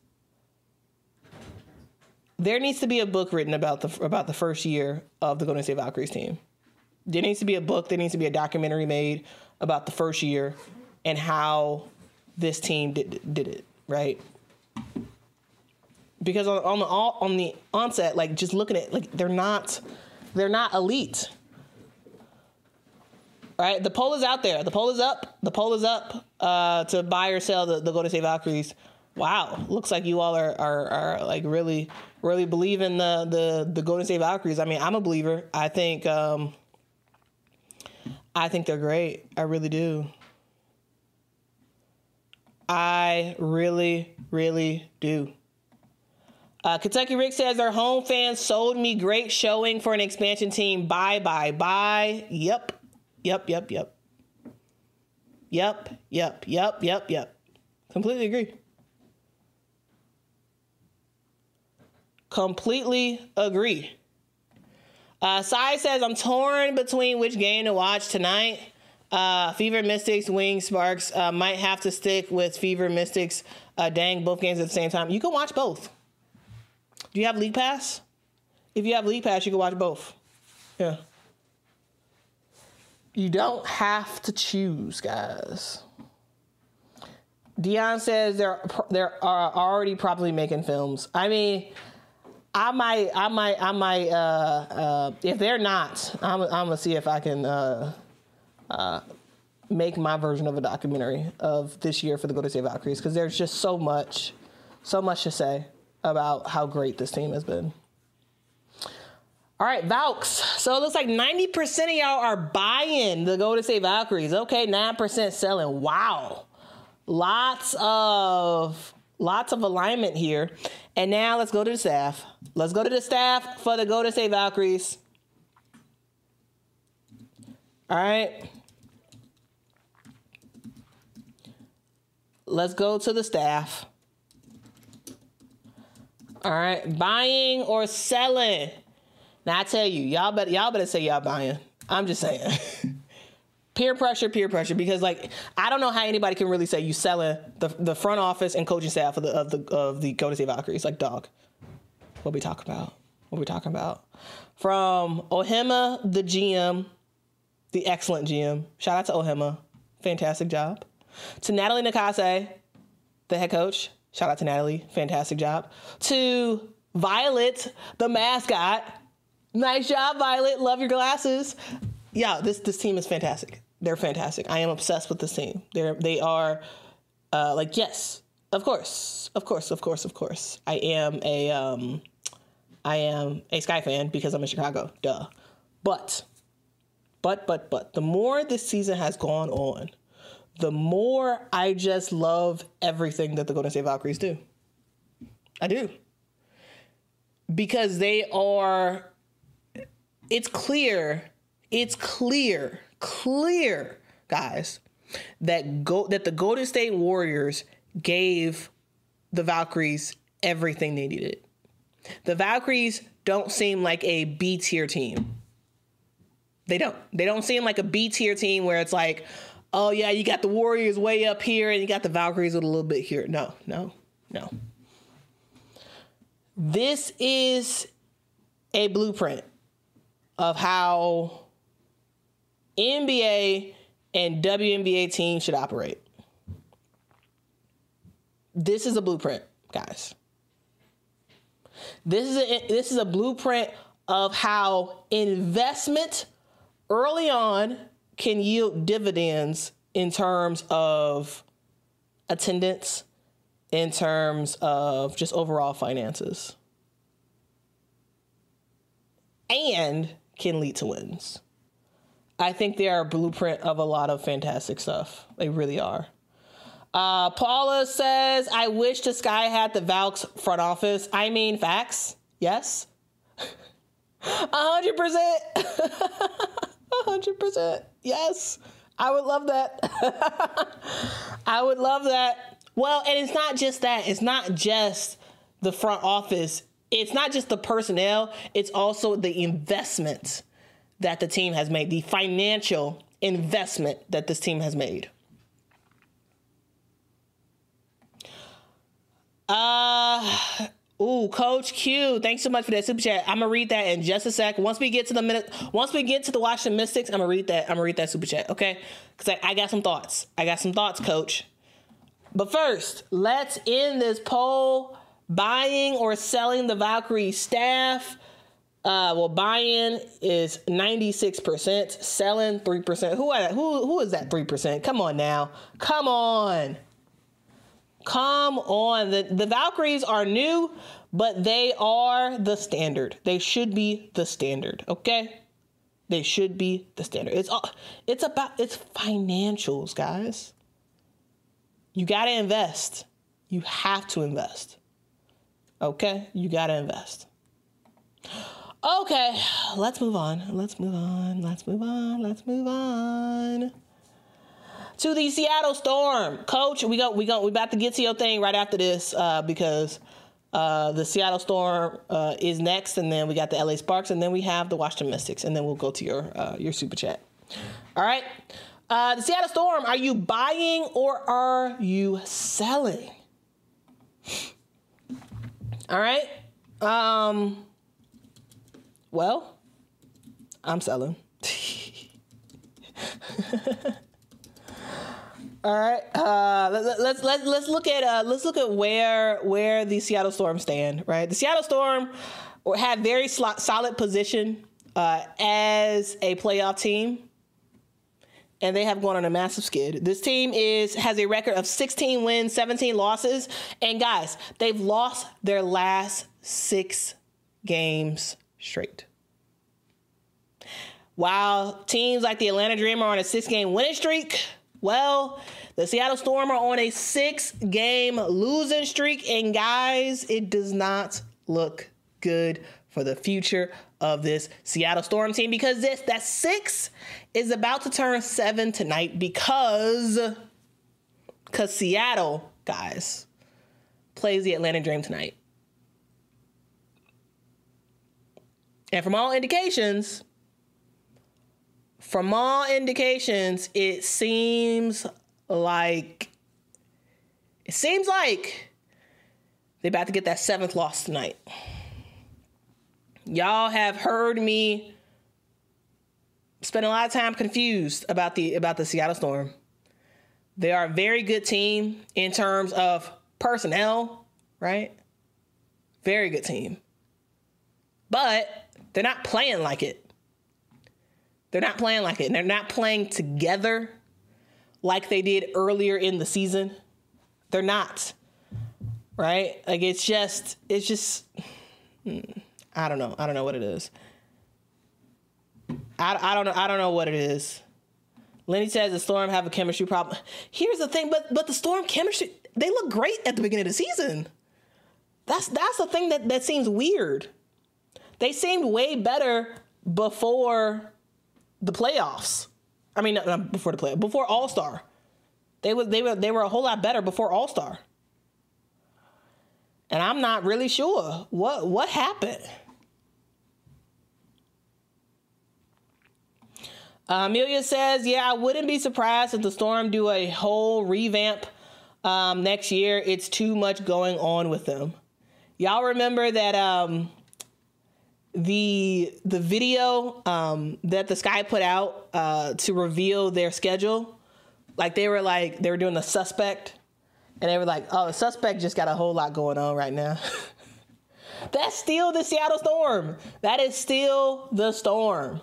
A: there needs to be a book written about the first year of the Golden State Valkyries team. There needs to be a book. There needs to be a documentary made about the first year and how this team did it, right? Because on the onset, like, just looking at, like, they're not elite. Right? The poll is out there. The poll is up. To buy or sell the Golden State Valkyries. Wow. Looks like you all are like really believe in the Golden State Valkyries. I mean, I'm a believer. I think they're great. I really do. I really do. Kentucky Rick says their home fans sold me great showing for an expansion team. Bye. Yep. Completely agree. Sai says, I'm torn between which game to watch tonight. Fever Mystics, Wings Sparks. Might have to stick with Fever Mystics. Dang, both games at the same time. You can watch both. Do you have League Pass? If you have League Pass, you can watch both. Yeah. You don't have to choose, guys. Dion says they're already probably making films. I mean, I might. If they're not, I'm gonna see if I can make my version of a documentary of this year for the Golden State Valkyries, because there's just so much to say about how great this team has been. All right, Valks. So it looks like 90% of y'all are buying the Golden State Valkyries. Okay, 9% selling. Wow. Lots of alignment here. And now let's go to the staff. Let's go to the staff for the Golden State Valkyries. All right. Let's go to the staff. All right, buying or selling. Now I tell you, y'all better say y'all buying. I'm just saying. Peer pressure, because like I don't know how anybody can really say you selling the front office and coaching staff of the Golden State Valkyries. Like, dog, what we talking about? From Ohima, the GM, the excellent GM. Shout out to Ohima, fantastic job. To Natalie Nakase, the head coach. Shout out to Natalie. Fantastic job. To Violet, the mascot. Nice job, Violet. Love your glasses. Yeah, this team is fantastic. They're fantastic. I am obsessed with this team. They are yes, of course. I am a Sky fan because I'm in Chicago. Duh. But the more this season has gone on, the more I just love everything that the Golden State Valkyries do. I do. Because they are, it's clear, guys, that the Golden State Warriors gave the Valkyries everything they needed. The Valkyries don't seem like a B-tier team. They don't seem like a B-tier team where it's like, oh yeah, you got the Warriors way up here and you got the Valkyries with a little bit here. No. This is a blueprint of how NBA and WNBA teams should operate. This is a blueprint, guys. This is a blueprint of how investment early on can yield dividends in terms of attendance, in terms of just overall finances, and can lead to wins. I think they are a blueprint of a lot of fantastic stuff. They really are. Paula says, I wish the Sky had the Valks front office. I mean, facts. Yes. 100%. 100%. Yes. I would love that. I would love that. Well, and it's not just that. It's not just the front office. It's not just the personnel. It's also the investment that the team has made, the financial investment that this team has made. Coach Q, thanks so much for that super chat. I'm gonna read that in just a sec. Once we get to the Washington Mystics, I'm gonna read that super chat, okay? Because I got some thoughts. Coach. But first, let's end this poll. Buying or selling the Valkyrie staff. Buying is 96%, selling 3%. Who is that 3%? Come on now. Come on. The Valkyries are new, but they are the standard. They should be the standard, okay? They should be the standard. It's financials, guys. You got to invest. You have to invest. Okay, you gotta invest. Okay, let's move on. To the Seattle Storm. Coach, we about to get to your thing right after this because the Seattle Storm is next, and then we got the LA Sparks, and then we have the Washington Mystics, and then we'll go to your super chat. All right. The Seattle Storm, are you buying or are you selling? All right. Well, I'm selling. All right. Let's look at where the Seattle Storm stand. Right. The Seattle Storm had very solid position as a playoff team, and they have gone on a massive skid. This team has a record of 16 wins, 17 losses, and guys, they've lost their last 6 games straight. While teams like the Atlanta Dream are on a 6-game winning streak, well, the Seattle Storm are on a 6-game losing streak, and guys, it does not look good for the future of this Seattle Storm team because that 6 is about to turn 7 tonight because Seattle, guys, plays the Atlanta Dream tonight. And from all indications, it seems like they're about to get that 7th loss tonight. Y'all have heard me spend a lot of time confused about the Seattle Storm. They are a very good team in terms of personnel, right? Very good team. But they're not playing like it. And they're not playing together like they did earlier in the season. They're not. Right? Like it's just I don't know. I don't know what it is. I don't know what it is. Lenny says the Storm have a chemistry problem. Here's the thing, but the Storm chemistry, they look great at the beginning of the season. That's the thing that seems weird. They seemed way better before the playoffs. I mean, not before the playoffs, before All-Star. They were a whole lot better before All-Star. And I'm not really sure what happened. Amelia says, yeah, I wouldn't be surprised if the Storm do a whole revamp next year. It's too much going on with them. Y'all remember that the video that the Sky put out to reveal their schedule? Like they were doing the suspect. And they were like, oh, the suspect just got a whole lot going on right now. That's still the Seattle Storm. That is still the Storm.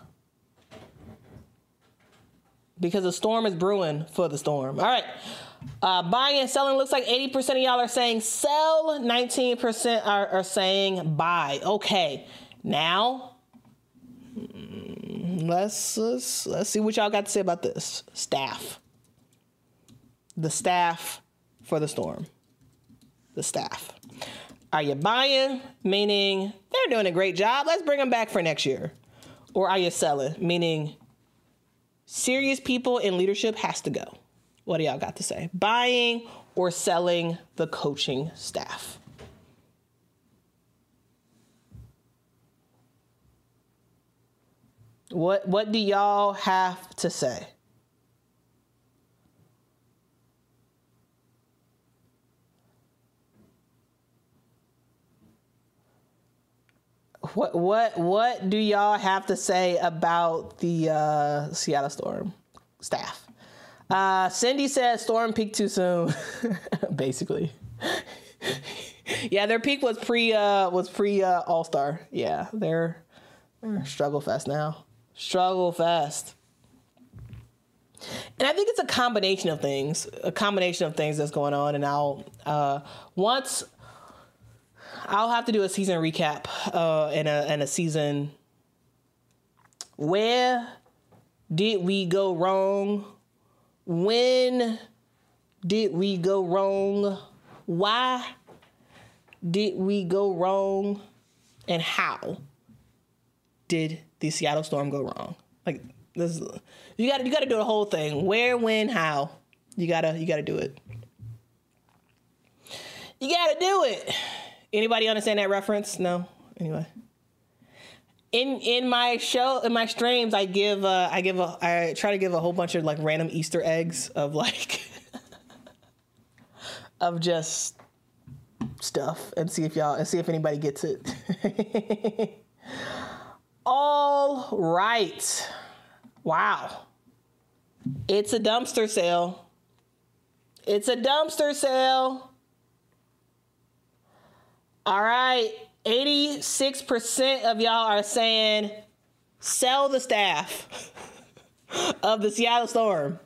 A: Because the storm is brewing for the Storm. All right. Buying and selling looks like 80% of y'all are saying sell. 19% are saying buy. Okay. Now, let's see what y'all got to say about this. Staff. The staff for the Storm. The staff. Are you buying? Meaning they're doing a great job. Let's bring them back for next year. Or are you selling? Meaning serious people in leadership has to go. What do y'all got to say? Buying or selling the coaching staff? What do y'all have to say? What do y'all have to say about the Seattle Storm staff? Cindy says Storm peaked too soon. Basically. Yeah, their peak was pre All-Star. Yeah, they're struggle fest now. Struggle fest. And I think it's a combination of things that's going on. And I'll have to do a season recap and a season. Where did we go wrong? When did we go wrong? Why did we go wrong, and how did the Seattle Storm go wrong? Like this, you got to do the whole thing. Where, when, how? You gotta do it. You gotta do it. Anybody understand that reference? No. Anyway, in my show, in my streams, I try to give a whole bunch of like random Easter eggs of like of just stuff and see if anybody gets it. All right. Wow. It's a dumpster sale. It's a dumpster sale. All right. 86% of y'all are saying sell the staff of the Seattle Storm.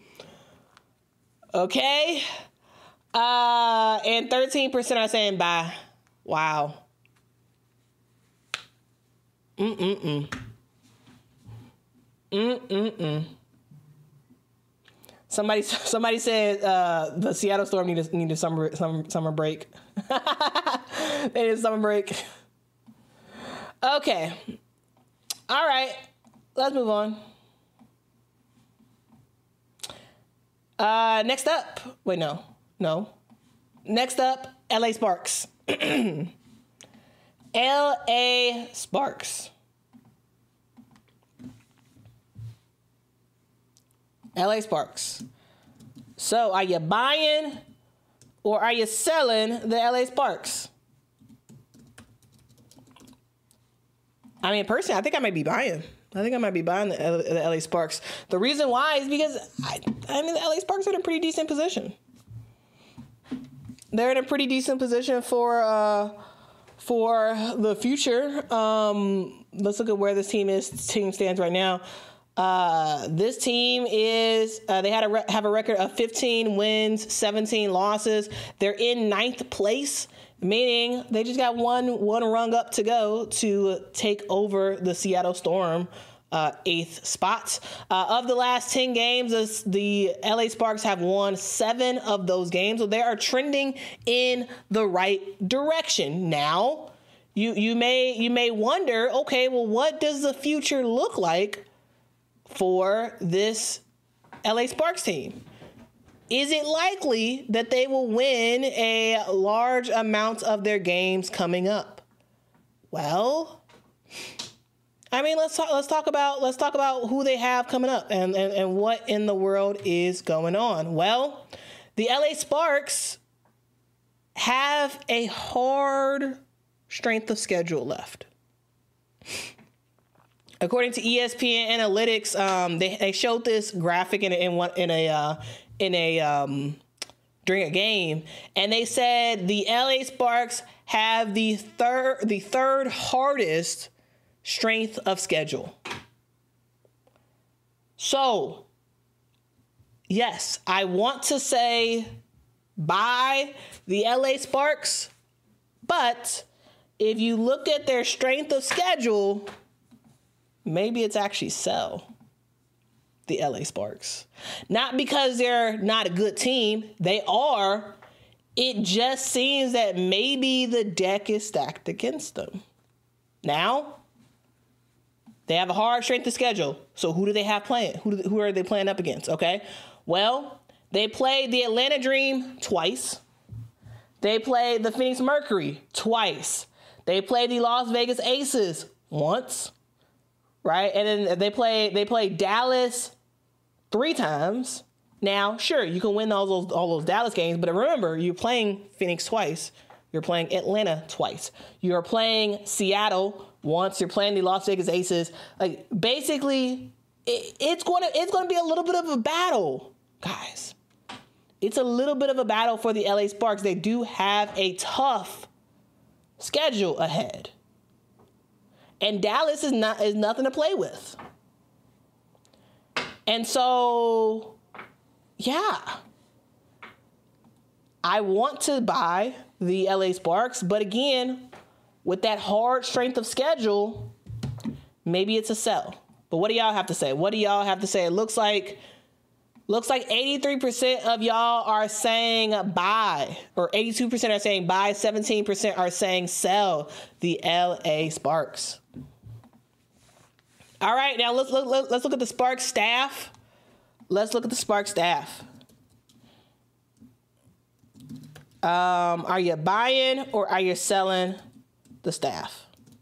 A: Okay. And 13% are saying buy. Wow. Somebody said the Seattle Storm need a summer break. They need a summer break. Okay. All right. Let's move on. Next up. Wait, no. Next up, LA Sparks. LA Sparks. LA Sparks. So, are you buying or are you selling the LA Sparks? I mean, personally, I think I might be buying. I think I might be buying the LA Sparks. The reason why is because, I mean, the LA Sparks are in a pretty decent position. They're in a pretty decent position for the future. Let's look at where this team stands right now. This team is they have a record of 15 wins, 17 losses. They're in 9th place, meaning they just got one rung up to go to take over the Seattle Storm 8th spot. Of the last 10 games, the LA Sparks have won 7 of those games, so they are trending in the right direction. Now, you may wonder, okay, well, what does the future look like for this LA Sparks team? Is it likely that they will win a large amount of their games coming up? Well, I mean, let's talk about who they have coming up and what in the world is going on. Well, the LA Sparks have a hard strength of schedule left. According to ESPN Analytics, they showed this graphic during a game, and they said the LA Sparks have the third hardest strength of schedule. So, yes, I want to say buy the LA Sparks, but if you look at their strength of schedule, maybe it's actually sell the LA Sparks. Not because they're not a good team. They are. It just seems that maybe the deck is stacked against them. Now, they have a hard strength of schedule. So who do they have playing? Who are they playing up against? Okay. Well, they played the Atlanta Dream twice. They played the Phoenix Mercury twice. They played the Las Vegas Aces once. Right? And then they played Dallas 3 times. Now, sure, you can win all those Dallas games, but remember, you're playing Phoenix twice. You're playing Atlanta twice. You're playing Seattle once. You're playing the Las Vegas Aces. Like, basically, it's going to be a little bit of a battle, guys. It's a little bit of a battle for the LA Sparks. They do have a tough schedule ahead. And Dallas is nothing to play with. And so, yeah. I want to buy the LA Sparks, but again, with that hard strength of schedule, maybe it's a sell. But what do y'all have to say? It looks like Looks like 83% of y'all are saying buy, or 82% are saying buy, 17% are saying sell the LA Sparks. All right, now let's look at the Sparks staff. Let's look at the Sparks staff. Are you buying or are you selling the staff?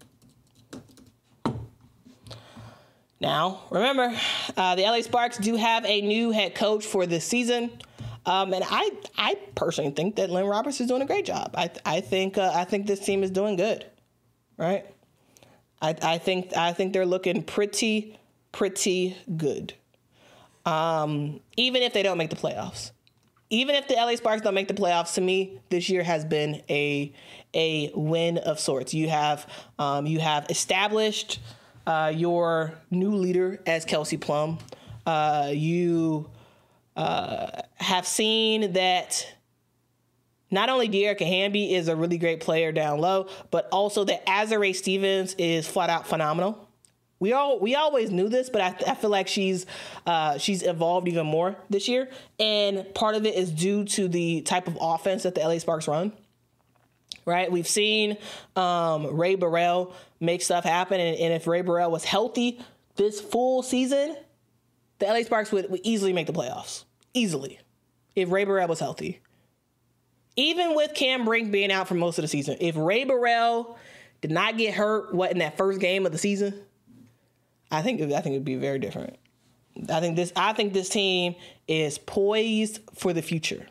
A: Now, remember, the LA Sparks do have a new head coach for this season. And I personally think that Lynn Roberts is doing a great job. I think this team is doing good, right? I think they're looking pretty good. Even if they don't make the playoffs. Even if the LA Sparks don't make the playoffs, to me, this year has been a win of sorts. You have established your new leader as Kelsey Plum. You have seen that not only De'Erica Hamby is a really great player down low, but also that Azurá Stevens is flat out phenomenal. We always knew this, but I feel like she's evolved even more this year, and part of it is due to the type of offense that the LA Sparks run. Right, we've seen Ray Burrell make stuff happen, and if Ray Burrell was healthy this full season, the LA Sparks would easily make the playoffs. Easily, if Ray Burrell was healthy. Even with Cam Brink being out for most of the season, if Ray Burrell did not get hurt, in that first game of the season, I think it'd be very different. I think this team is poised for the future.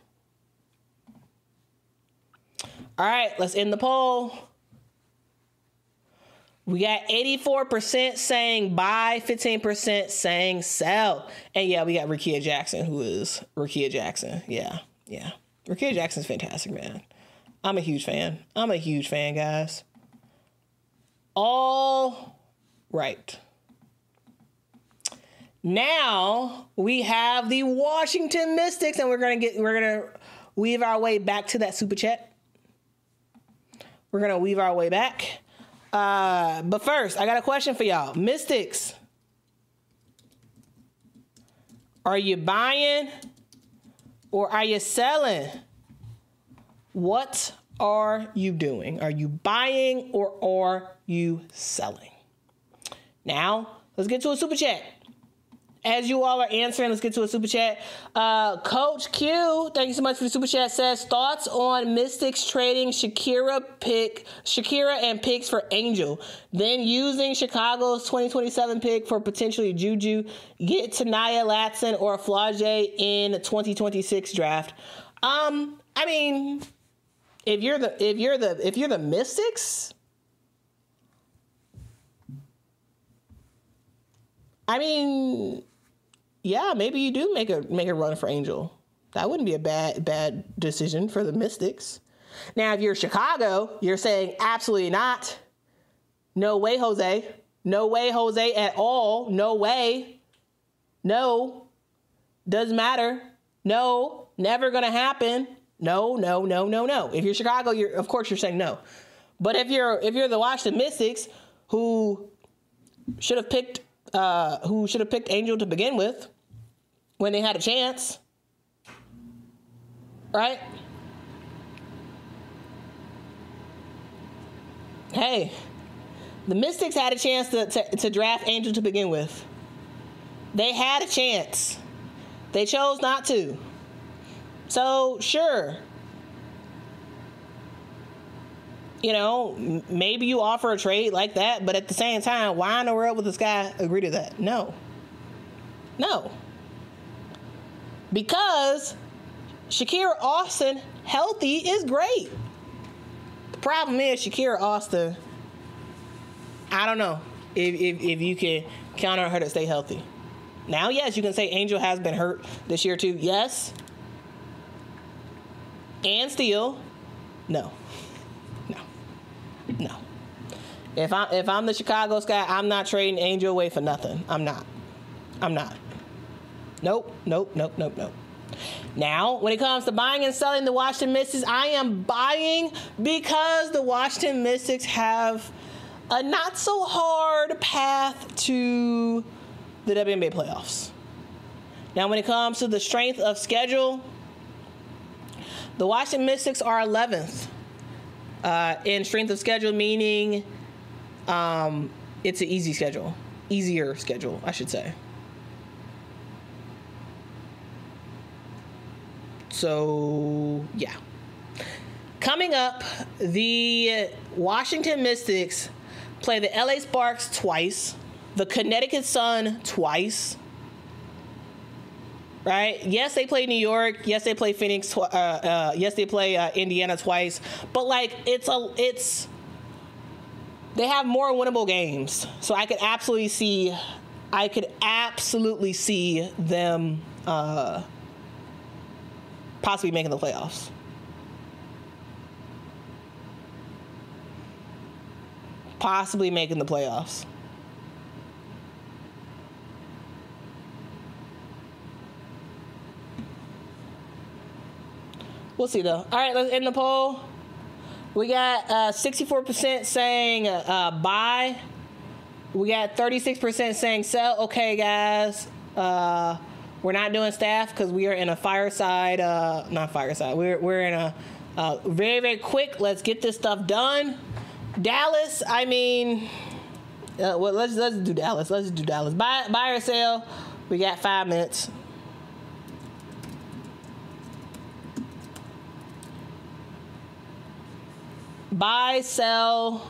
A: All right, let's end the poll. We got 84% saying buy, 15% saying sell. And yeah, we got Rickea Jackson, who is Rickea Jackson. Yeah. Rickea Jackson's fantastic, man. I'm a huge fan, guys. All right. Now we have the Washington Mystics, and we're gonna weave our way back to that super chat. We're gonna weave our way back. But first, I got a question for y'all. Mystics, are you buying or are you selling? What are you doing? Are you buying or are you selling? Now, let's get to a super chat. As you all are answering, let's get to a super chat. Coach Q, thank you so much for the super chat, says thoughts on Mystics trading Shakira and picks for Angel, then using Chicago's 2027 pick for potentially Juju, get Tanaya Latson or Flau'jae in 2026 draft. I mean, if you're the Mystics, I mean, yeah, maybe you do make a run for Angel. That wouldn't be a bad decision for the Mystics. Now, if you're Chicago, you're saying absolutely not. No way, Jose. No way, Jose, at all. No way. No. Doesn't matter. No. Never gonna happen. No. If you're Chicago, of course you're saying no. But if you're the Washington Mystics, who should have picked Angel to begin with when they had a chance, right? Hey, the Mystics had a chance to draft Angel to begin with. They had a chance. They chose not to. So, sure. You know, maybe you offer a trade like that, but at the same time, why in the world would this guy agree to that? No. Because Shakira Austin healthy is great. The problem is Shakira Austin, I don't know if you can count on her to stay healthy. Now, yes, you can say Angel has been hurt this year too. Yes. And still, no. If I'm the Chicago Sky, I'm not trading Angel away for nothing. I'm not. Nope. Now, when it comes to buying and selling the Washington Mystics, I am buying because the Washington Mystics have a not so hard path to the WNBA playoffs. Now, when it comes to the strength of schedule, the Washington Mystics are 11th in strength of schedule, meaning it's an easy schedule. Easier schedule, I should say. So, yeah. Coming up, the Washington Mystics play the LA Sparks twice, the Connecticut Sun twice. Right? Yes, they play New York. Yes, they play Phoenix. Yes, they play Indiana twice. But like, they have more winnable games. So I could absolutely see them possibly making the playoffs. Possibly making the playoffs. We'll see, though. All right, let's end the poll. We got 64% saying buy. We got 36% saying sell. Okay, guys. We're not doing staff because we are in a fireside. Not fireside. We're in a very, very quick. Let's get this stuff done. Dallas. I mean, well, let's do Dallas. Let's do Dallas. Buy or sell. We got 5 minutes. Buy, sell.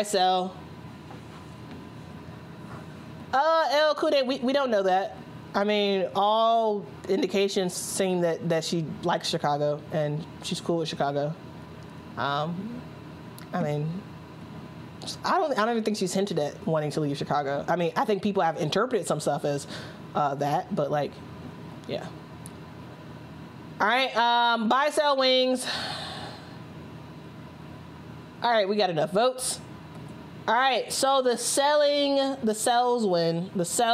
A: El Kude, we don't know that. I mean, all indications seem that she likes Chicago and she's cool with Chicago. I mean, I don't even think she's hinted at wanting to leave Chicago. I mean, I think people have interpreted some stuff as that, but like, yeah. All right, buy, sell, Wings. All right, we got enough votes. All right, so the sells win.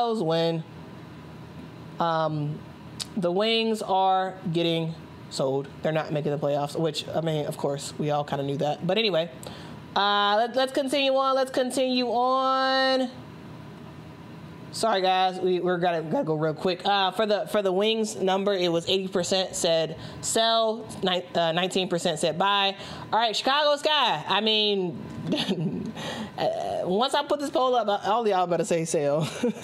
A: The Wings are getting sold. They're not making the playoffs, which, I mean, of course, we all kind of knew that. But anyway, let's continue on. Sorry, guys, we're gotta go real quick. For the Wings number, it was 80% said sell, 19% said buy. All right, Chicago Sky. I mean, once I put this poll up, all y'all better say sell.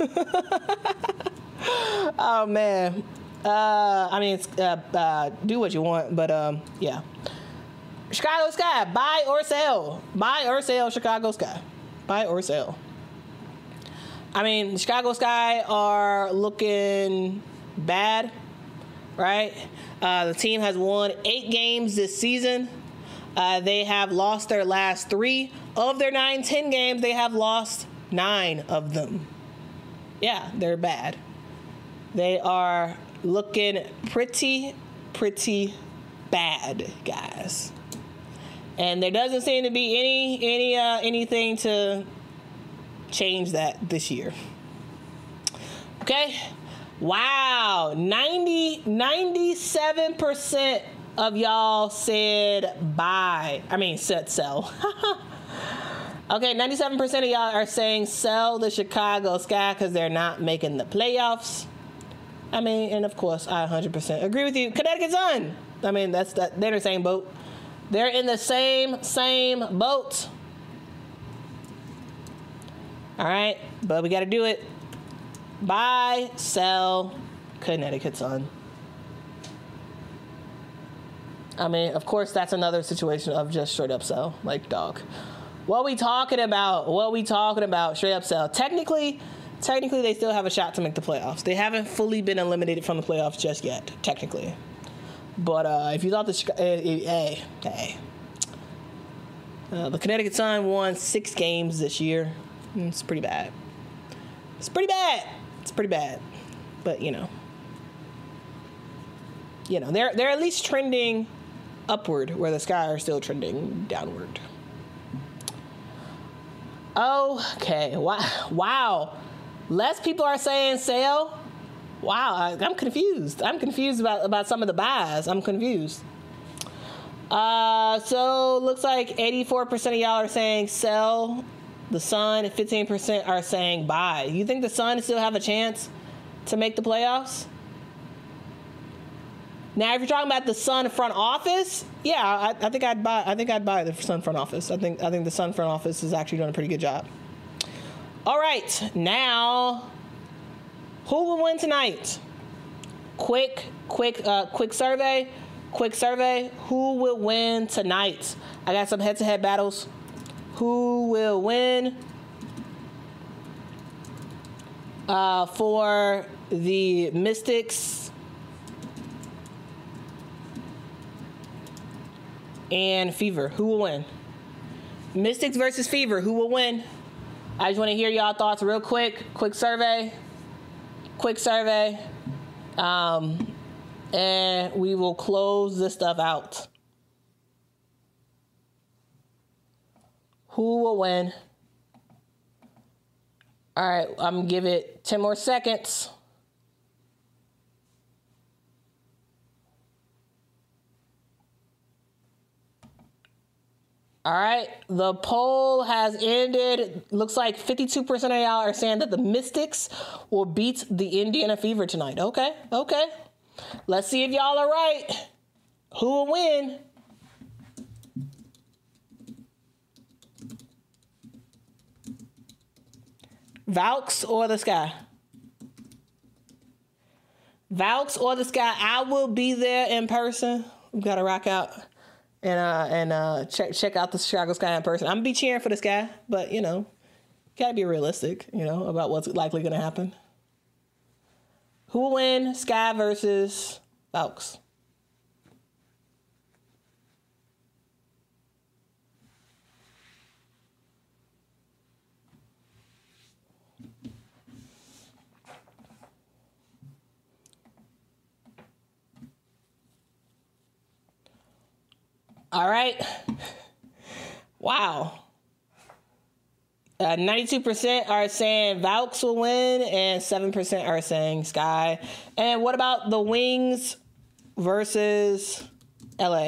A: Oh man. I mean, do what you want, but yeah. Chicago Sky, buy or sell. Buy or sell, Chicago Sky. Buy or sell. I mean, Chicago Sky are looking bad, right? The team has won 8 games this season. They have lost their last 3. Of their 9-10 games, they have lost 9 of them. Yeah, they're bad. They are looking pretty bad, guys. And there doesn't seem to be anything to change that this year. Okay. Wow. 97% of y'all said buy. I mean, said sell. Okay, 97% of y'all are saying sell the Chicago Sky because they're not making the playoffs. I mean, and of course, I 100% agree with you. Connecticut Sun. I mean, they're in the same boat. They're in the same boat. All right, but we got to do it. Buy, sell, Connecticut Sun. I mean, of course, that's another situation of just straight up sell. Like, dog. What we talking about? Straight up sell. Technically, they still have a shot to make the playoffs. They haven't fully been eliminated from the playoffs just yet, technically. But if you thought the Connecticut Sun won 6 games this year. It's pretty bad. It's pretty bad. But they're at least trending upward, where the Sky are still trending downward. Okay. Wow. Less people are saying sell. Wow. I'm confused. About some of the buys. I'm confused. So looks like 84% of y'all are saying sell the Sun, 15% are saying buy. You think the Sun still have a chance to make the playoffs? Now, if you're talking about the Sun front office, yeah, I think I'd buy the Sun front office. I think the Sun front office is actually doing a pretty good job. All right, now, who will win tonight? Quick survey. Quick survey. Who will win tonight? I got some head-to-head battles. Who will win for the Mystics and Fever? Who will win? Mystics versus Fever. Who will win? I just want to hear y'all thoughts real quick. Quick survey. And we will close this stuff out. Who will win? All right, I'm going to give it 10 more seconds. All right, the poll has ended. Looks like 52% of y'all are saying that the Mystics will beat the Indiana Fever tonight. Okay. Let's see if y'all are right. Who will win? Valks or the Sky? Valks or the Sky? I will be there in person. We've got to rock out and check out the Chicago Sky in person. I'm gonna be cheering for the Sky, but gotta be realistic, about what's likely gonna happen. Who will win? Sky versus Valks? All right. Wow. 92% are saying Valks will win and 7% are saying Sky. And what about the Wings versus LA?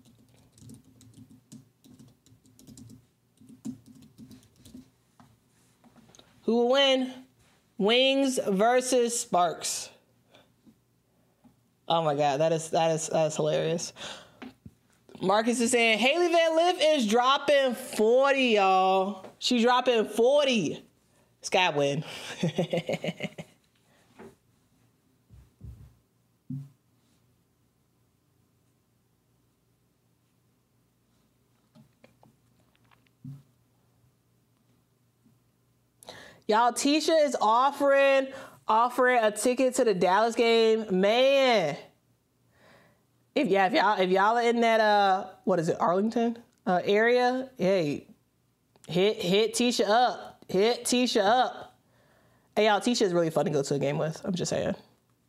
A: Who will win? Wings versus Sparks. Oh my God, that is hilarious. Marcus is saying Hailey Van Lith is dropping 40, y'all. She's dropping 40. Sky win. Y'all, Tisha is offering a ticket to the Dallas game. Man. If y'all are in that what is it, Arlington area, hey, hit Tisha up. Hit Tisha up. Hey y'all, Tisha is really fun to go to a game with. I'm just saying.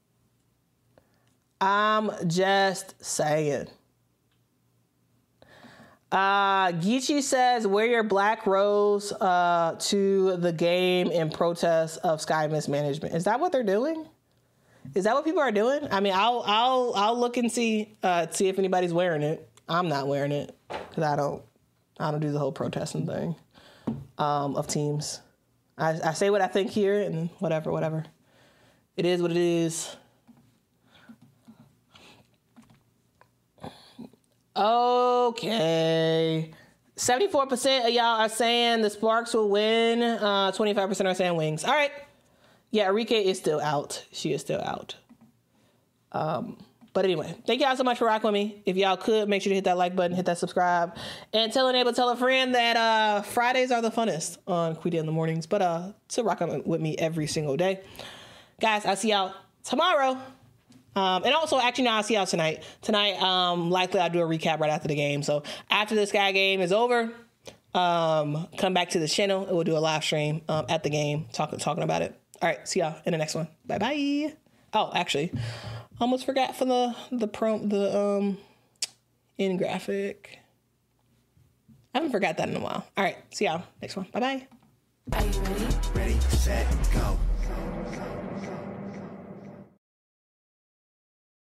A: Geechee says, wear your black rose to the game in protest of Sky mismanagement. Is that what they're doing? Is that what people are doing? I mean, I'll look and see if anybody's wearing it. I'm not wearing it because I don't do the whole protesting thing of teams. I say what I think here and whatever. It is what it is. Okay. 74% of y'all are saying the Sparks will win. 25% are saying Wings. All right. Yeah, Arike is still out. She is still out. But anyway, thank y'all so much for rocking with me. If y'all could, make sure to hit that like button, hit that subscribe, and tell a friend that Fridays are the funnest on Quita in the mornings. But to rock with me every single day. Guys, I'll see y'all tomorrow. And also, actually, no, I'll see y'all tonight. Tonight, likely I'll do a recap right after the game. So after the Sky game is over, come back to the channel and we'll do a live stream at the game talking about it. All right, see y'all in the next one. Bye-bye. Oh, actually, almost forgot for the end graphic. I haven't forgot that in a while. All right, see y'all next one. Bye-bye.
B: Are you ready?
C: Ready, set, go.